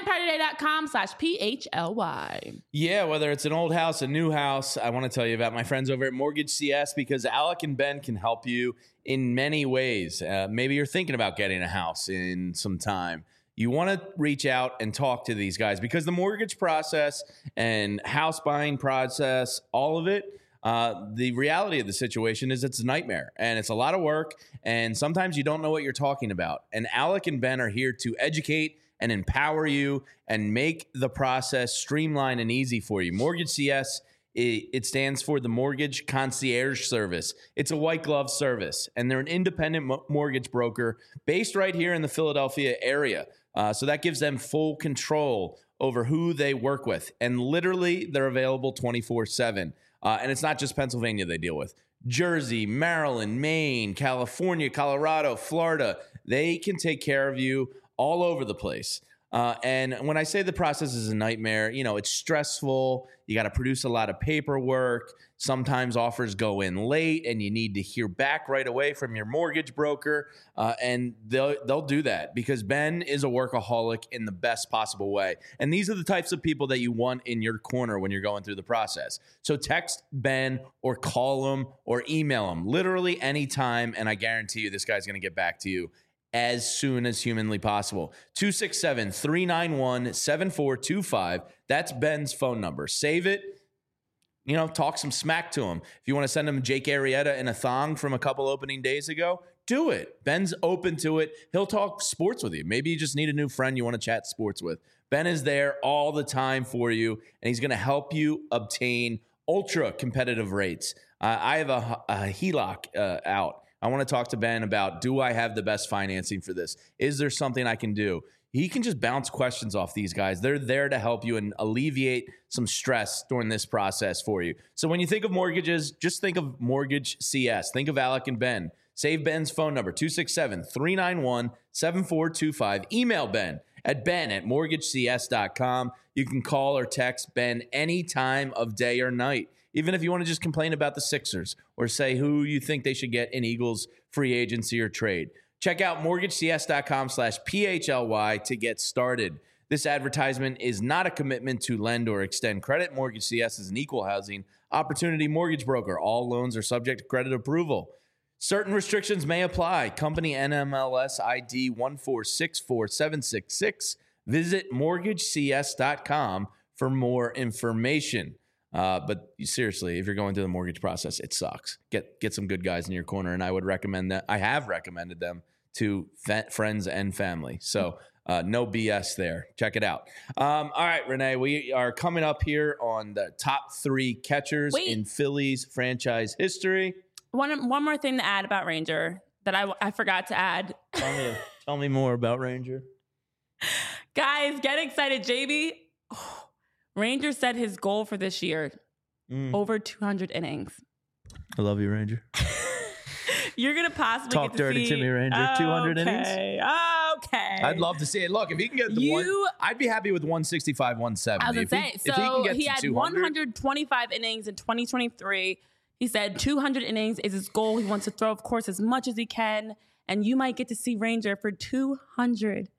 EmpireToday.com/PHLY. Yeah, whether it's an old house, a new house, I want to tell you about my friends over at Mortgage CS because Alec and Ben can help you in many ways. Maybe you're thinking about getting a house in some time. You want to reach out and talk to these guys because the mortgage process and house buying process, all of it, the reality of the situation is it's a nightmare and it's a lot of work. And sometimes you don't know what you're talking about. And Alec and Ben are here to educate and empower you and make the process streamlined and easy for you. Mortgage CS, it stands for the Mortgage Concierge Service. It's a white glove service, and they're an independent mortgage broker based right here in the Philadelphia area. So that gives them full control over who they work with. And literally, they're available 24/7. And it's not just Pennsylvania they deal with. Jersey, Maryland, Maine, California, Colorado, Florida. They can take care of you all over the place. And when I say the process is a nightmare, it's stressful. You got to produce a lot of paperwork. Sometimes offers go in late and you need to hear back right away from your mortgage broker. And they'll do that because Ben is a workaholic in the best possible way. And these are the types of people that you want in your corner when you're going through the process. So text Ben or call him or email him literally anytime. And I guarantee you this guy's going to get back to you as soon as humanly possible. 267-391-7425. That's Ben's phone number. Save it. Talk some smack to him. If you want to send him Jake Arrieta in a thong from a couple opening days ago, do it. Ben's open to it. He'll talk sports with you. Maybe you just need a new friend you want to chat sports with. Ben is there all the time for you, and he's going to help you obtain ultra competitive rates. I have a HELOC out. I want to talk to Ben about, do I have the best financing for this? Is there something I can do? He can just bounce questions off these guys. They're there to help you and alleviate some stress during this process for you. So when you think of mortgages, just think of Mortgage CS. Think of Alec and Ben. Save Ben's phone number, 267-391-7425. Email Ben at ben@mortgagecs.com. You can call or text Ben any time of day or night. Even if you want to just complain about the Sixers or say who you think they should get in Eagles free agency or trade. Check out mortgagecs.com/PHLY to get started. This advertisement is not a commitment to lend or extend credit. Mortgage CS is an equal housing opportunity mortgage broker. All loans are subject to credit approval. Certain restrictions may apply. Company NMLS ID 1464766. Visit mortgagecs.com for more information. But seriously, if you're going through the mortgage process, it sucks. Get some good guys in your corner, and I would recommend that. I have recommended them to friends and family. So no BS there. Check it out. All right, Renee, we are coming up here on the top 3 catchers in Phillies franchise history. One more thing to add about Ranger that I forgot to add. Tell me more about Ranger. Guys, get excited. JB. Ranger set his goal for this year, over 200 innings. I love you, Ranger. You're going to possibly talk get to dirty to me, Ranger. 200 innings? Okay. I'd love to see it. Look, if he can get the one, I'd be happy with 165, 170. I was going to say, so he had 125 innings in 2023. He said 200 innings is his goal. He wants to throw, of course, as much as he can. And you might get to see Ranger for 200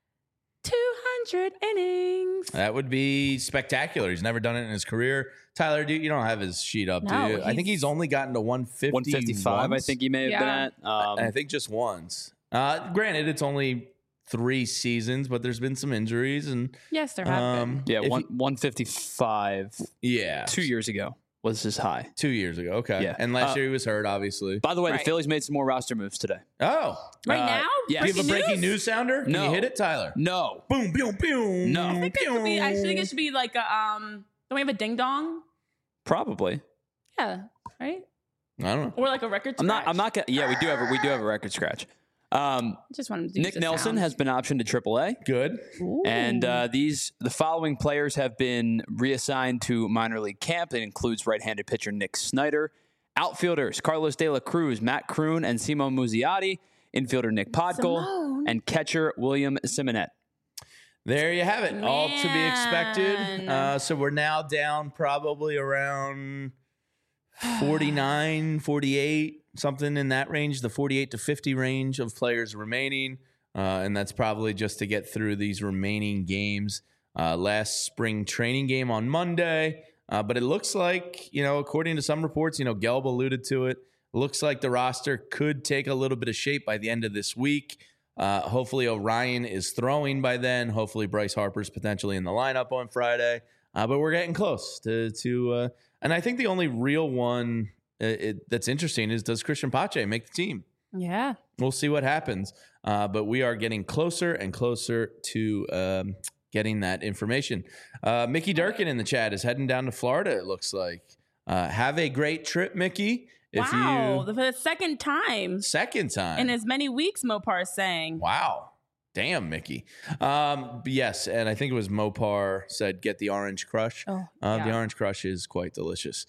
innings. That would be spectacular. He's never done it in his career. Tyler, you don't have his sheet up, do you? I think he's only gotten to 155. I think he may have been at. I think just once. Granted, it's only 3 seasons, but there's been some injuries. And yes, there have been. Yeah, 155. Yeah. 2 years ago was his high. 2 years ago, okay. Yeah. And last year he was hurt, obviously. By the way, the Phillies made some more roster moves today. Oh. Right now? Yeah. Do you have a breaking news sounder? No. Can you hit it, Tyler? No. Boom, boom, boom. No. I think it should be like a, don't we have a ding dong? Probably. Yeah, right? I don't know. Or like a record scratch. I'm not gonna, yeah, we do have a record scratch. Just wanted to Nick Nelson has been optioned to AAA. Good. Ooh. And the following players have been reassigned to minor league camp. It includes right-handed pitcher Nick Snyder, outfielders Carlos De La Cruz, Matt Kroon, and Simone Muzziotti, infielder Nick Podgol, and catcher William Simonette. There you have it. All to be expected. So we're now down probably around 49, 48, something in that range, the 48 to 50 range of players remaining. And that's probably just to get through these remaining games. Last spring training game on Monday. But it looks like, according to some reports, Gelb alluded to it. Looks like the roster could take a little bit of shape by the end of this week. Hopefully Orion is throwing by then. Hopefully Bryce Harper's potentially in the lineup on Friday. But we're getting close to and I think the only real one that's interesting is, does Christian Pache make the team? Yeah. We'll see what happens. But we are getting closer and closer to getting that information. Mickey Durkin in the chat is heading down to Florida, it looks like. Have a great trip, Mickey. For the second time. In as many weeks, Mopar's saying. Wow. Damn, Mickey. Yes, and I think it was Mopar said, get the Orange Crush. Oh, yeah. The Orange Crush is quite delicious.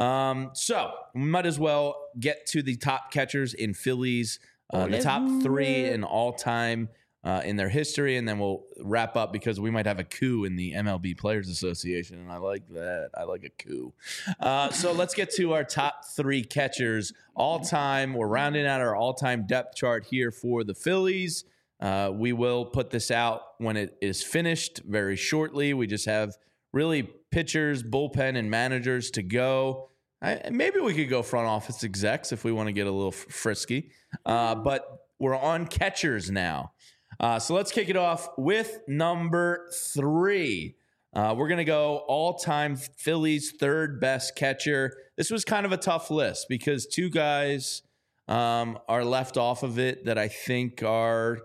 So we might as well get to the top catchers in Phillies. The top three in all-time in their history, and then we'll wrap up because we might have a coup in the MLB Players Association, and I like that. I like a coup. So let's get to our top three catchers all-time. We're rounding out our all-time depth chart here for the Phillies. We will put this out when it is finished very shortly. We just have really pitchers, bullpen, and managers to go. Maybe we could go front office execs if we want to get a little frisky. But we're on catchers now. So let's kick it off with number 3. We're going to go all-time Phillies third best catcher. This was kind of a tough list because two guys are left off of it that I think are,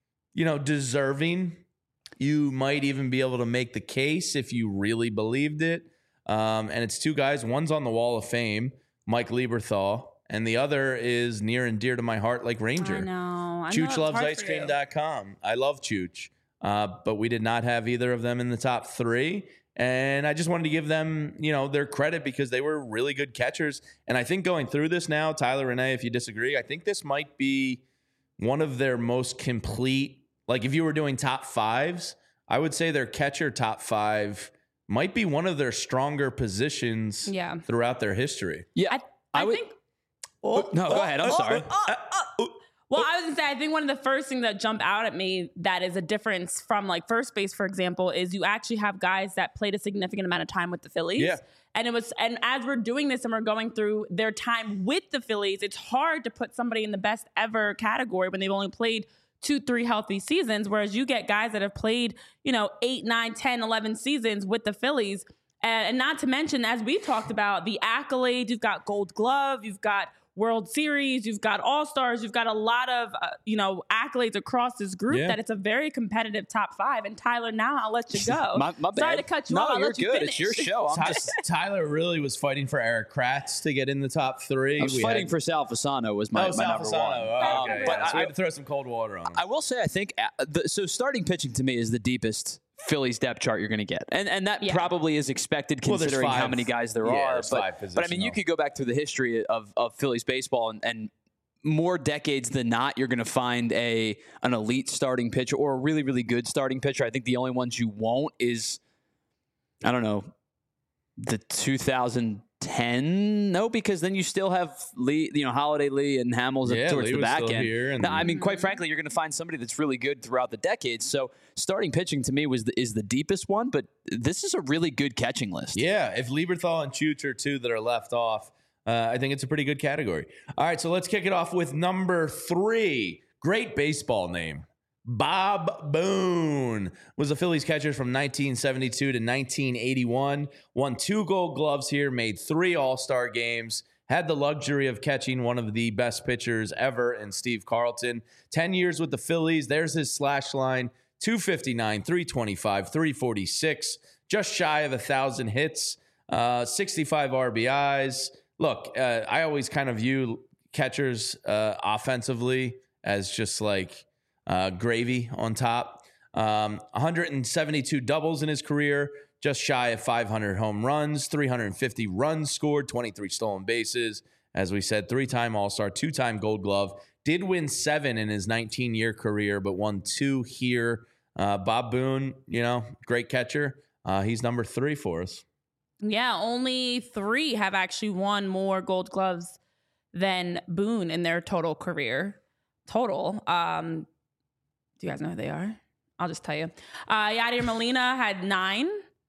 deserving. You might even be able to make the case if you really believed it. And it's two guys. One's on the Wall of Fame, Mike Lieberthal, and the other is near and dear to my heart, like Ranger. I know. ChoochLovesIceCream.com. I love Chooch. But we did not have either of them in the top 3. And I just wanted to give them, their credit because they were really good catchers. And I think going through this now, Tyler, Renee, if you disagree, I think this might be one of their most complete. Like if you were doing top 5s, I would say their catcher top 5 might be one of their stronger positions throughout their history. Yeah, I think. No, go ahead. I'm sorry. Well, I was going to say, I think one of the first things that jump out at me that is a difference from like first base, for example, is you actually have guys that played a significant amount of time with the Phillies. Yeah. And as we're doing this and we're going through their time with the Phillies, it's hard to put somebody in the best ever category when they've only played 2-3 healthy seasons. Whereas you get guys that have played, 8, 9, 10, 11 seasons with the Phillies. And not to mention, as we talked about, the accolades, you've got Gold Glove, you've got World Series, you've got All-Stars, you've got a lot of, accolades across this group that it's a very competitive top 5. And Tyler, now I'll let you go. My bad. Sorry to cut you off. No, you're good. It's your show. Tyler really was fighting for Eric Kratz to get in the top 3. I was fighting for Sal Fasano was my number 1. Oh, okay. But we had to throw some cold water on him. I will say, I think, so starting pitching to me is the deepest Phillies depth chart you're going to get. And that probably is expected considering how many guys there are. But I mean, you could go back through the history of Phillies baseball and more decades than not, you're going to find an elite starting pitcher or a really, really good starting pitcher. I think the only ones you won't is, I don't know, the 2010. No, because then you still have Lee, Holiday Lee and Hamels towards the back end. I mean, quite frankly, you're going to find somebody that's really good throughout the decades. So starting pitching to me is the deepest one, but this is a really good catching list. Yeah, if Lieberthal and Chooch are two that are left off, I think it's a pretty good category. All right, so let's kick it off with number 3. Great baseball name. Bob Boone was a Phillies catcher from 1972 to 1981. Won 2 Gold Gloves here, made 3 All-Star games, had the luxury of catching one of the best pitchers ever in Steve Carlton. 10 years with the Phillies. There's his slash line, 259, 325, 346, just shy of 1,000 hits, 65 RBIs. Look, I always kind of view catchers offensively as just like gravy on top. 172 doubles in his career, just shy of 500 home runs, 350 runs scored, 23 stolen bases. As we said, 3-time All-Star, 2-time Gold Glove. Did win 7 in his 19-year career, but won 2 here Bob Boone, great catcher. He's number 3 for us. Yeah, only 3 have actually won more Gold Gloves than Boone in their total career. Do you guys know who they are? I'll just tell you. Yadier Molina had 9.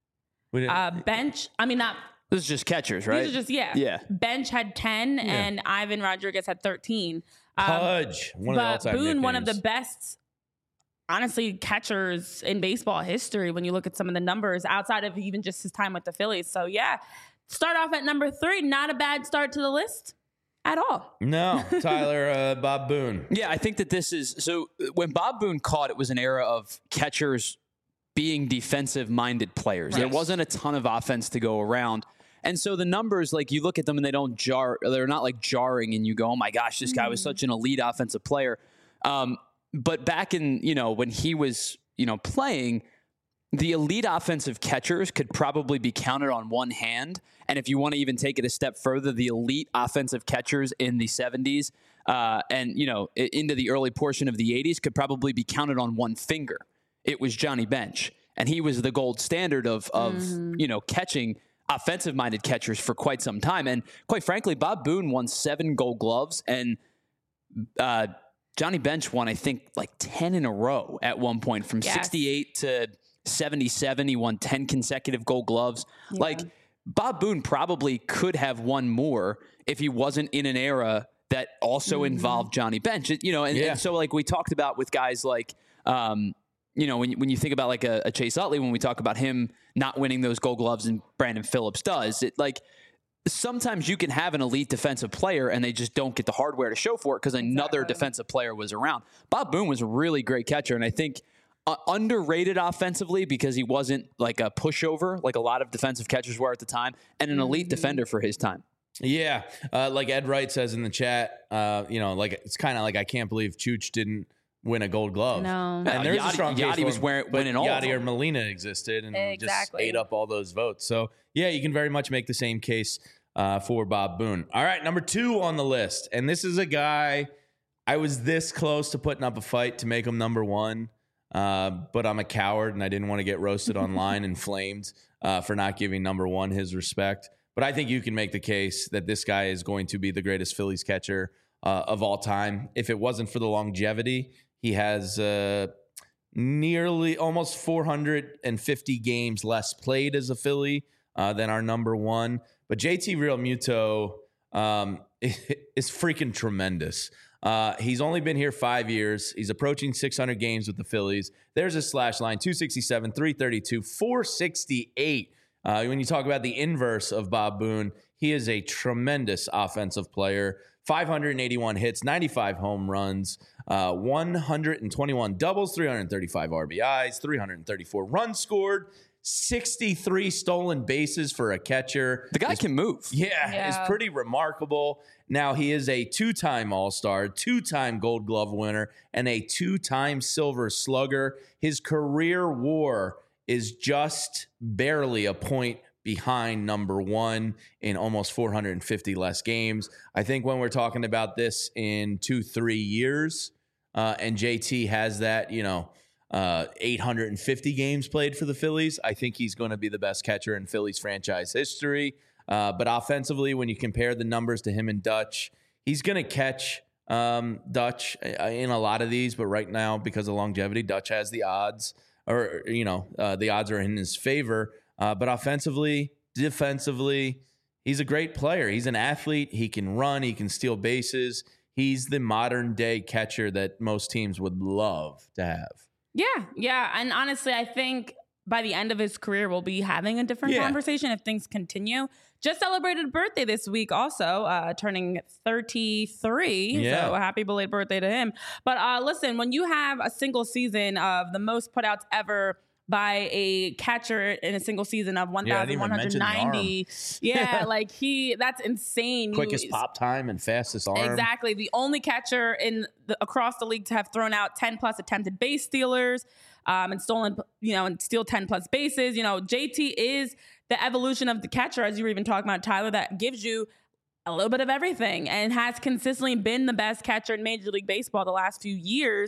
Bench. This is just catchers, right? These are just, yeah. Bench had 10, and Ivan Rodriguez had 13. Pudge, one of the all-time Boone, nicknames. one of the best, honestly, catchers in baseball history when you look at some of the numbers outside of even just his time with the Phillies. So, start off at number 3. Not a bad start to the list at all. No, Tyler, Bob Boone. Yeah, I think that this is – so when Bob Boone caught, it was an era of catchers being defensive-minded players. Right. There wasn't a ton of offense to go around. And so the numbers, like you look at them and they don't jar, they're not like jarring and you go, oh my gosh, this guy was such an elite offensive player. But back in, when he was, playing, the elite offensive catchers could probably be counted on one hand. And if you want to even take it a step further, the elite offensive catchers in the 70s and, into the early portion of the 80s could probably be counted on one finger. It was Johnny Bench. And he was the gold standard of catching offensive-minded catchers for quite some time. And quite frankly, Bob Boone won 7 Gold Gloves, and Johnny Bench won, I think, like 10 in a row at one point. From 68 to 77, he won 10 consecutive Gold Gloves. Yeah. Like, Bob Boone probably could have won more if he wasn't in an era that also involved Johnny Bench. And so, like, we talked about with guys like when you think about like a Chase Utley, when we talk about him not winning those Gold Gloves and Brandon Phillips does, it like sometimes you can have an elite defensive player and they just don't get the hardware to show for it because another defensive player was around. Bob Boone was a really great catcher, and I think underrated offensively because he wasn't like a pushover like a lot of defensive catchers were at the time, and an elite defender for his time. Yeah, like Ed Wright says in the chat, like it's kind of like I can't believe Chooch didn't win a Gold Glove. No. And there's a strong case Yachty was winning all Yachty or Molina existed and just ate up all those votes. So, yeah, you can very much make the same case for Bob Boone. All right, number 2 on the list. And this is a guy I was this close to putting up a fight to make him number 1, but I'm a coward and I didn't want to get roasted online and flamed for not giving number 1 his respect. But I think you can make the case that this guy is going to be the greatest Phillies catcher of all time. If it wasn't for the longevity, he has nearly almost 450 games less played as a Philly than our number 1. But JT Realmuto is freaking tremendous. He's only been here 5 years. He's approaching 600 games with the Phillies. There's his slash line, 267, 332, 468. When you talk about the inverse of Bob Boone, he is a tremendous offensive player. 581 hits, 95 home runs, 121 doubles, 335 RBIs, 334 runs scored, 63 stolen bases for a catcher. The guy can move. Yeah, it's pretty remarkable. Now, he is a 2-time All-Star, 2-time Gold Glove winner, and a 2-time Silver Slugger. His career WAR is just barely a point behind number 1 in almost 450 less games. I think when we're talking about this in 2-3 years, and JT has that, 850 games played for the Phillies, I think he's going to be the best catcher in Phillies franchise history. But offensively, when you compare the numbers to him and Dutch, he's going to catch Dutch in a lot of these. But right now, because of longevity, Dutch has the odds, or, the odds are in his favor. But offensively, defensively, he's a great player. He's an athlete. He can run. He can steal bases. He's the modern day catcher that most teams would love to have. Yeah. And honestly, I think by the end of his career, we'll be having a different conversation if things continue. Just celebrated a birthday this week also, turning 33. Yeah. So happy belated birthday to him. But listen, when you have a single season of the most putouts ever by a catcher in a single season of 1,190. That's insane. Quickest pop time and fastest arm. Exactly. The only catcher across the league to have thrown out 10 plus attempted base stealers, and stolen, and steal 10 plus bases. JT is the evolution of the catcher, as you were even talking about, Tyler, that gives you a little bit of everything and has consistently been the best catcher in Major League Baseball the last few years.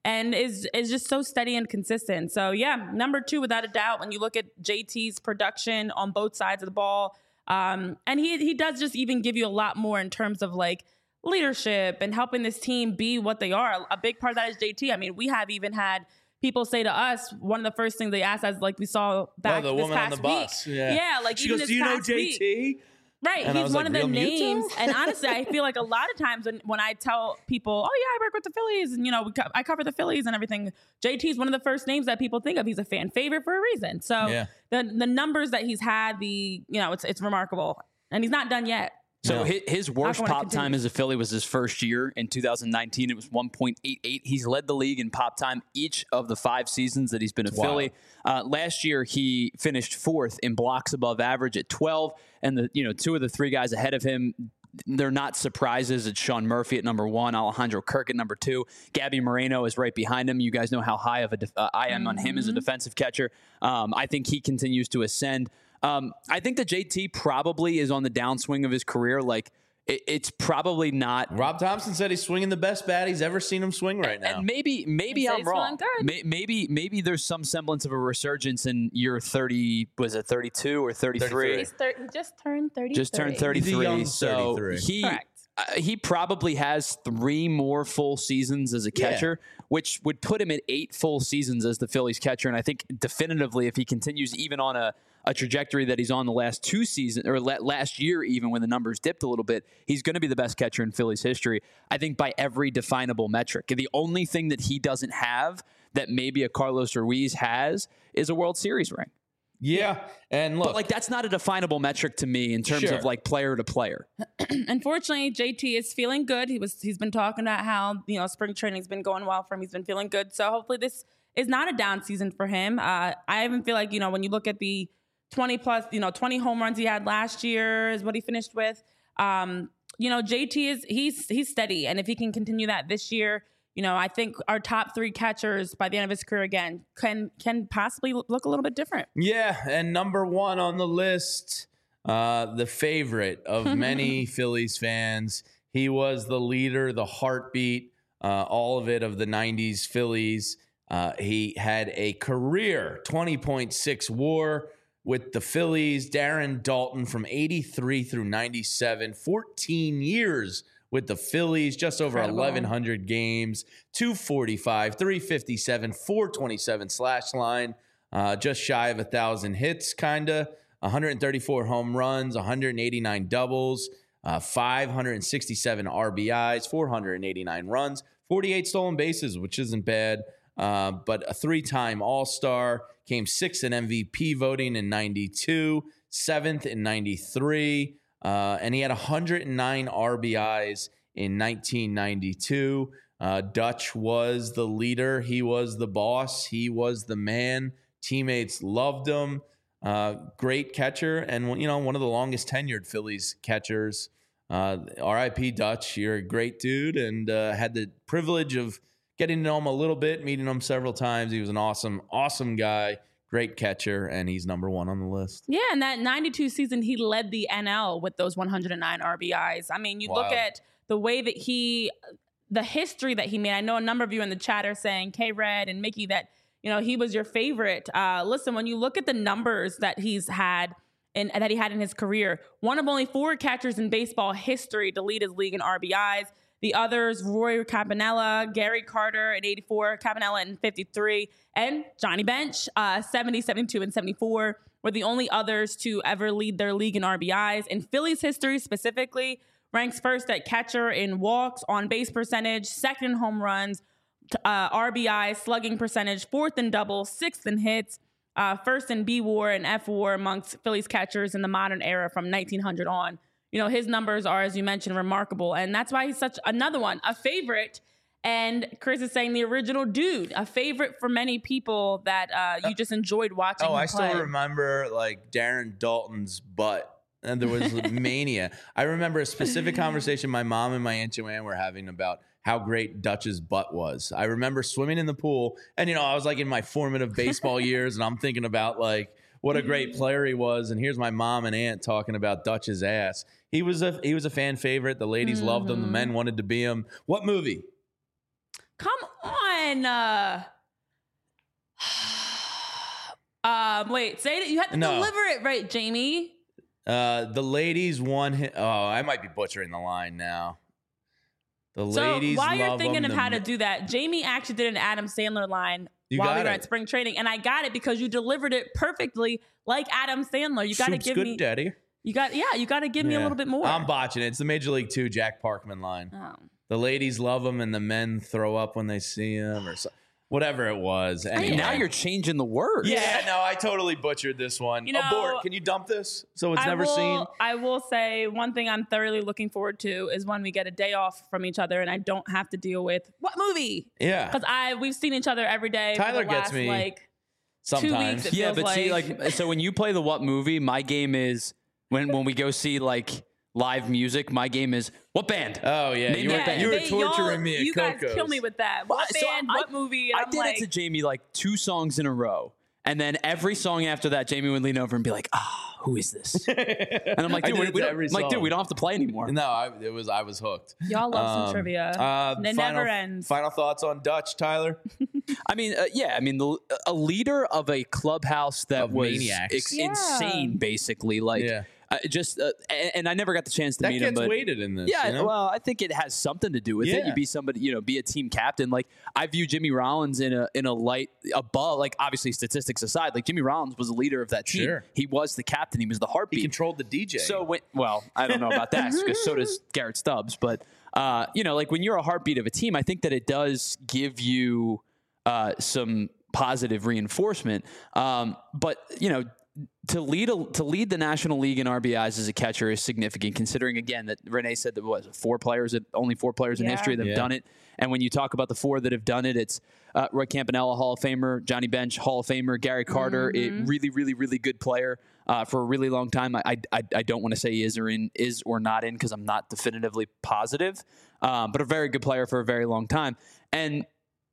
and is just so steady and consistent. So yeah, number 2 without a doubt. When you look at JT's production on both sides of the ball, and he does just even give you a lot more in terms of like leadership and helping this team be what they are. A big part of that is JT. I mean, we have even had people say to us, one of the first things they asked us, like we saw back the this woman past on the bus. week. Yeah, like she even goes, this do you know past JT? Week. Right, and he's one of the names. Muto? And honestly, I feel like a lot of times when I tell people, oh yeah, I work with the Phillies, and I cover the Phillies and everything, JT is one of the first names that people think of. He's a fan favorite for a reason. So the numbers that he's had, it's remarkable, and he's not done yet. So his worst pop time as a Philly was his first year. In 2019, it was 1.88. He's led the league in pop time each of the 5 seasons that he's been a Philly. Last year, he finished 4th in blocks above average at 12. And 2 of the 3 guys ahead of him, they're not surprises. It's Sean Murphy at number 1, Alejandro Kirk at number 2. Gabby Moreno is right behind him. You guys know how high of I am on him as a defensive catcher. I think he continues to ascend. I think that JT probably is on the downswing of his career. Like, it's probably not. Rob Thompson said he's swinging the best bat he's ever seen him swing right now. And maybe I'm wrong. Maybe there's some semblance of a resurgence in year 30. Was it 32 or 33? He just turned 33. Just turned 33. So 33. He probably has 3 more full seasons as a catcher, which would put him at 8 full seasons as the Phillies catcher. And I think definitively, if he continues even on a trajectory that he's on the last 2 seasons, or last year, even when the numbers dipped a little bit, he's going to be the best catcher in Phillies history, I think, by every definable metric. The only thing that he doesn't have that maybe a Carlos Ruiz has is a World Series ring. Yeah. And look, but that's not a definable metric to me in terms of like player to player. Unfortunately, JT is feeling good. He's been talking about how, spring training's been going well for him. He's been feeling good. So hopefully this is not a down season for him. I even feel like, when you look at the 20 home runs he had last year is what he finished with. JT he's steady. And if he can continue that this year, I think our top 3 catchers by the end of his career again can possibly look a little bit different. Yeah, and number 1 on the list, the favorite of many Phillies fans. He was the leader, the heartbeat, all of it of the 90s Phillies. He had a career 20.6 WAR with the Phillies. Darren Daulton from 83 through 97, 14 years with the Phillies, just over 1,100 games, 245, 357, 427 slash line, just shy of 1,000 hits, 134 home runs, 189 doubles, 567 RBIs, 489 runs, 48 stolen bases, which isn't bad, but a 3-time All-Star, came 6th in MVP voting in 92, 7th in 93, and he had 109 RBIs in 1992. Dutch was the leader. He was the boss. He was the man. Teammates loved him. Great catcher, and one of the longest tenured Phillies catchers. R.I.P. Dutch. You're a great dude, and had the privilege of getting to know him a little bit, meeting him several times. He was an awesome guy. Great catcher, and he's number 1 on the list. Yeah, and that 92 season, he led the NL with those 109 RBIs. I mean, you look at the way that the history that he made. I know a number of you in the chat are saying, K-Red and Mickey, that, he was your favorite. Listen, when you look at the numbers that he's had and that he had in his career, one of only 4 catchers in baseball history to lead his league in RBIs. The others, Roy Campanella, Gary Carter at 84, Campanella in 53, and Johnny Bench, 70, 72, and 74 were the only others to ever lead their league in RBIs. In Phillies history specifically, ranks first at catcher in walks, on-base percentage, 2nd in home runs, RBI, slugging percentage, 4th in doubles, 6th in hits, 1st in B-WAR and F-WAR amongst Phillies catchers in the modern era from 1900 on. His numbers are, as you mentioned, remarkable. And that's why he's another one, a favorite. And Chris is saying the original dude, a favorite for many people that you just enjoyed watching him play. I still remember Darren Daulton's butt. And there was mania. I remember a specific conversation my mom and my Aunt Joanne were having about how great Dutch's butt was. I remember swimming in the pool. And, I was in my formative baseball years. And I'm thinking about what a great player he was. And here's my mom and aunt talking about Dutch's ass. He was a fan favorite. The ladies loved him. The men wanted to be him. What movie? Come on. won. Wait, say it. You have to deliver it right, Jamie. The ladies won. I might be butchering the line now. The ladies. So while you're thinking of how to do that, Jamie actually did an Adam Sandler line while we were at spring training, and I got it because you delivered it perfectly like Adam Sandler. You got to give me, Daddy. You got to give me a little bit more. I'm botching it. It's the Major League 2 Jack Parkman line. Oh. The ladies love him, and the men throw up when they see him, or whatever it was. Anyway. Now you're changing the words. Yeah, no, I totally butchered this one. Abort. Can you dump this so it's never seen? I will say one thing I'm thoroughly looking forward to is when we get a day off from each other and I don't have to deal with what movie. Yeah, because we've seen each other every day. Tyler for the gets last, me sometimes. 2 weeks. Yeah, but see, so when you play the what movie, my game is when we go see live music, my game is what band? Oh yeah, you were torturing me at You Coco's. guys kill me with that. What band? What movie? I did it to Jamie 2 songs in a row, and then every song after that, Jamie would lean over and be like, who is this? And I'm like, dude, we don't have to play anymore. No, I was hooked. Y'all love some trivia. It never ends. Final thoughts on Dutch, Tyler? I mean, a leader of a clubhouse that was insane, basically. And I never got the chance to meet him. That gets weighted in this. Yeah, well, I think it has something to do with it. You be somebody, be a team captain. I view Jimmy Rollins in a light above. Obviously, statistics aside, Jimmy Rollins was a leader of that team. Sure. He was the captain. He was the heartbeat. He controlled the DJ. So I don't know about that because so does Garrett Stubbs. But when you're a heartbeat of a team, I think that it does give you some positive reinforcement. But to lead the National League in RBIs as a catcher is significant, considering again that Renee said that only 4 players in history that have done it. And when you talk about the 4 that have done it, it's Roy Campanella, Hall of Famer, Johnny Bench, Hall of Famer, Gary Carter, a really, really, really good player for a really long time. I don't want to say he is or not in because I'm not definitively positive, but a very good player for a very long time. And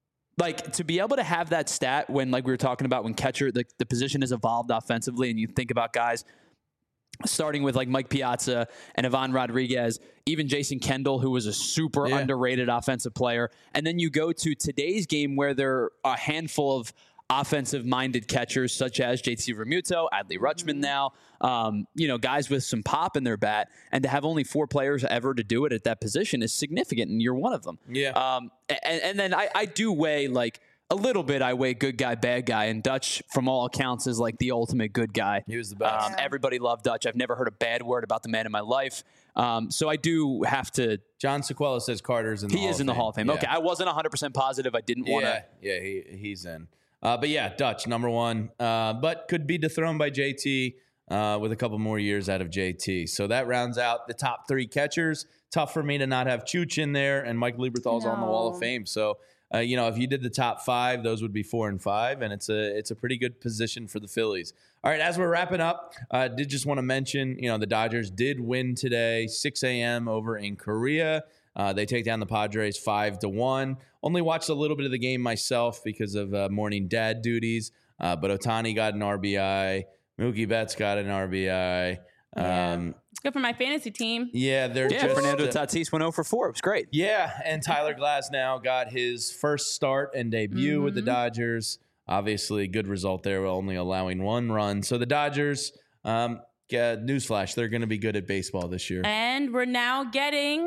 to be able to have that stat when, we were talking about when catcher, the position has evolved offensively, and you think about guys starting with Mike Piazza and Ivan Rodriguez, even Jason Kendall, who was a super underrated offensive player. And then you go to today's game where there are a handful of offensive-minded catchers such as JT Realmuto, Adley Rutschman now, guys with some pop in their bat, and to have only 4 players ever to do it at that position is significant, and you're one of them. Yeah. And then I do weigh, a little bit, I weigh good guy, bad guy, and Dutch, from all accounts, is the ultimate good guy. He was the best. Everybody loved Dutch. I've never heard a bad word about the man in my life. So I do have to... John Sequela says Carter's in the Hall of Fame. He is in the Hall of Fame. Yeah. Okay, I wasn't 100% positive. I didn't want to... Yeah, he's in. But yeah, Dutch, number 1. But could be dethroned by JT with a couple more years out of JT. So that rounds out the top 3 catchers. Tough for me to not have Chooch in there, and Mike Lieberthal's on the Wall of Fame. So, if you did the top 5, those would be 4 and 5, and it's a pretty good position for the Phillies. All right, as we're wrapping up, did just want to mention, the Dodgers did win today, 6 a.m. over in Korea. They take down the Padres 5-1. Only watched a little bit of the game myself because of morning dad duties. But Ohtani got an RBI. Mookie Betts got an RBI. It's good for my fantasy team. Yeah, Fernando Tatis went 0 for 4. It was great. Yeah, and Tyler Glasnow got his first start and debut with the Dodgers. Obviously, good result there, only allowing 1 run. So the Dodgers, newsflash, they're going to be good at baseball this year. And we're now getting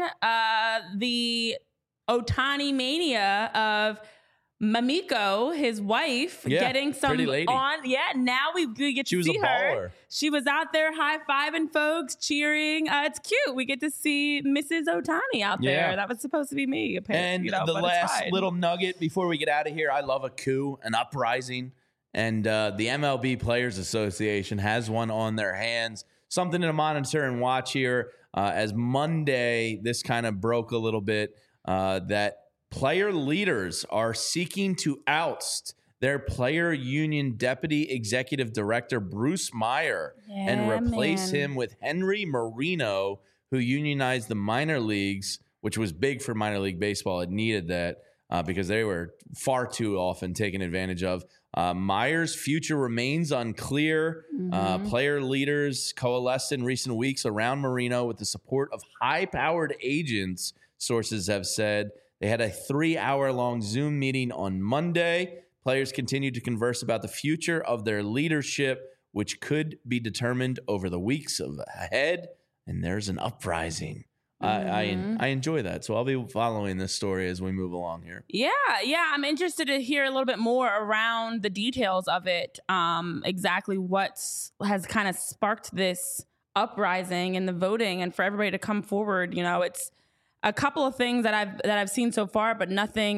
the Ohtani mania of Mamiko, his wife, getting some pretty lady. Now we get to see her. She was out there high-fiving folks, cheering. It's cute. We get to see Mrs. Ohtani out there. That was supposed to be me, apparently. And the last little nugget before we get out of here, I love a coup, an uprising. And the MLB Players Association has one on their hands. Something to monitor and watch here. As Monday, this kind of broke a little bit, that player leaders are seeking to oust their player union deputy executive director, Bruce Meyer, and replace him with Henry Marino, who unionized the minor leagues, which was big for minor league baseball. It needed that because they were far too often taken advantage of. Meyer's future remains unclear. Player leaders coalesced in recent weeks around Marino with the support of high-powered agents, sources have said. They had a 3-hour-long Zoom meeting on Monday. Players continued to converse about the future of their leadership, which could be determined over the weeks ahead. And there's an uprising. I enjoy that. So I'll be following this story as we move along here. Yeah. I'm interested to hear a little bit more around the details of it. Exactly what has kind of sparked this uprising and the voting, and for everybody to come forward. It's a couple of things that I've seen so far, but nothing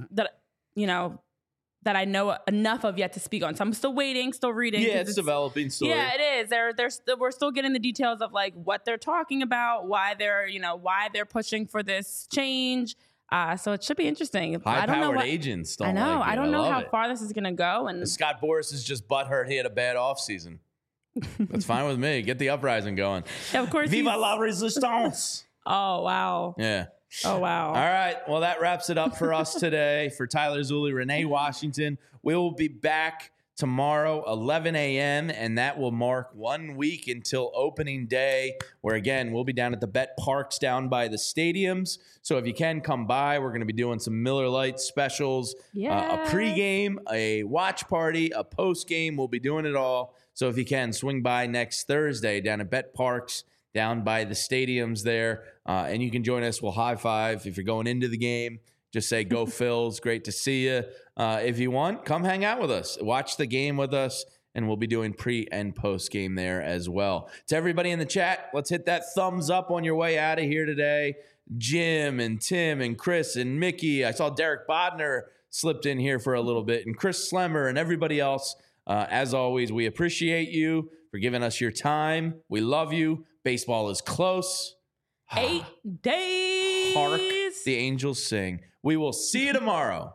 that I know enough of yet to speak on. So I'm still waiting, still reading. Yeah, it's developing story. Yeah, it is. We're still getting the details of like what they're talking about, why they're pushing for this change. So it should be interesting. High-powered agents. I know. I don't know how far this is going to go. And Scott Boras is just butthurt. He had a bad offseason. That's fine with me. Get the uprising going. Yeah, of course. Viva la resistance. Oh, wow. Yeah. Oh, wow. All right. Well, that wraps it up for us today. For Tyler Zulli, Renee Washington, we will be back tomorrow, 11 a.m., and that will mark 1 week until opening day, where, again, we'll be down at the Bet Parks down by the stadiums. So if you can, come by. We're going to be doing some Miller Lite specials, a pregame, a watch party, a postgame. We'll be doing it all. So if you can, swing by next Thursday down at Bet Parks down by the stadiums there, and you can join us. We'll high five. If you're going into the game, just say, go Phils. Great to see you. If you want, come hang out with us. Watch the game with us, and we'll be doing pre and post game there as well. To everybody in the chat, let's hit that thumbs up on your way out of here today. Jim and Tim and Chris and Mickey. I saw Derek Bodner slipped in here for a little bit, and Chris Slemmer and everybody else. As always, we appreciate you for giving us your time. We love you. Baseball is close. 8 days. Hark the angels sing. We will see you tomorrow.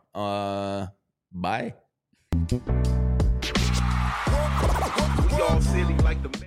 Bye. We all silly like the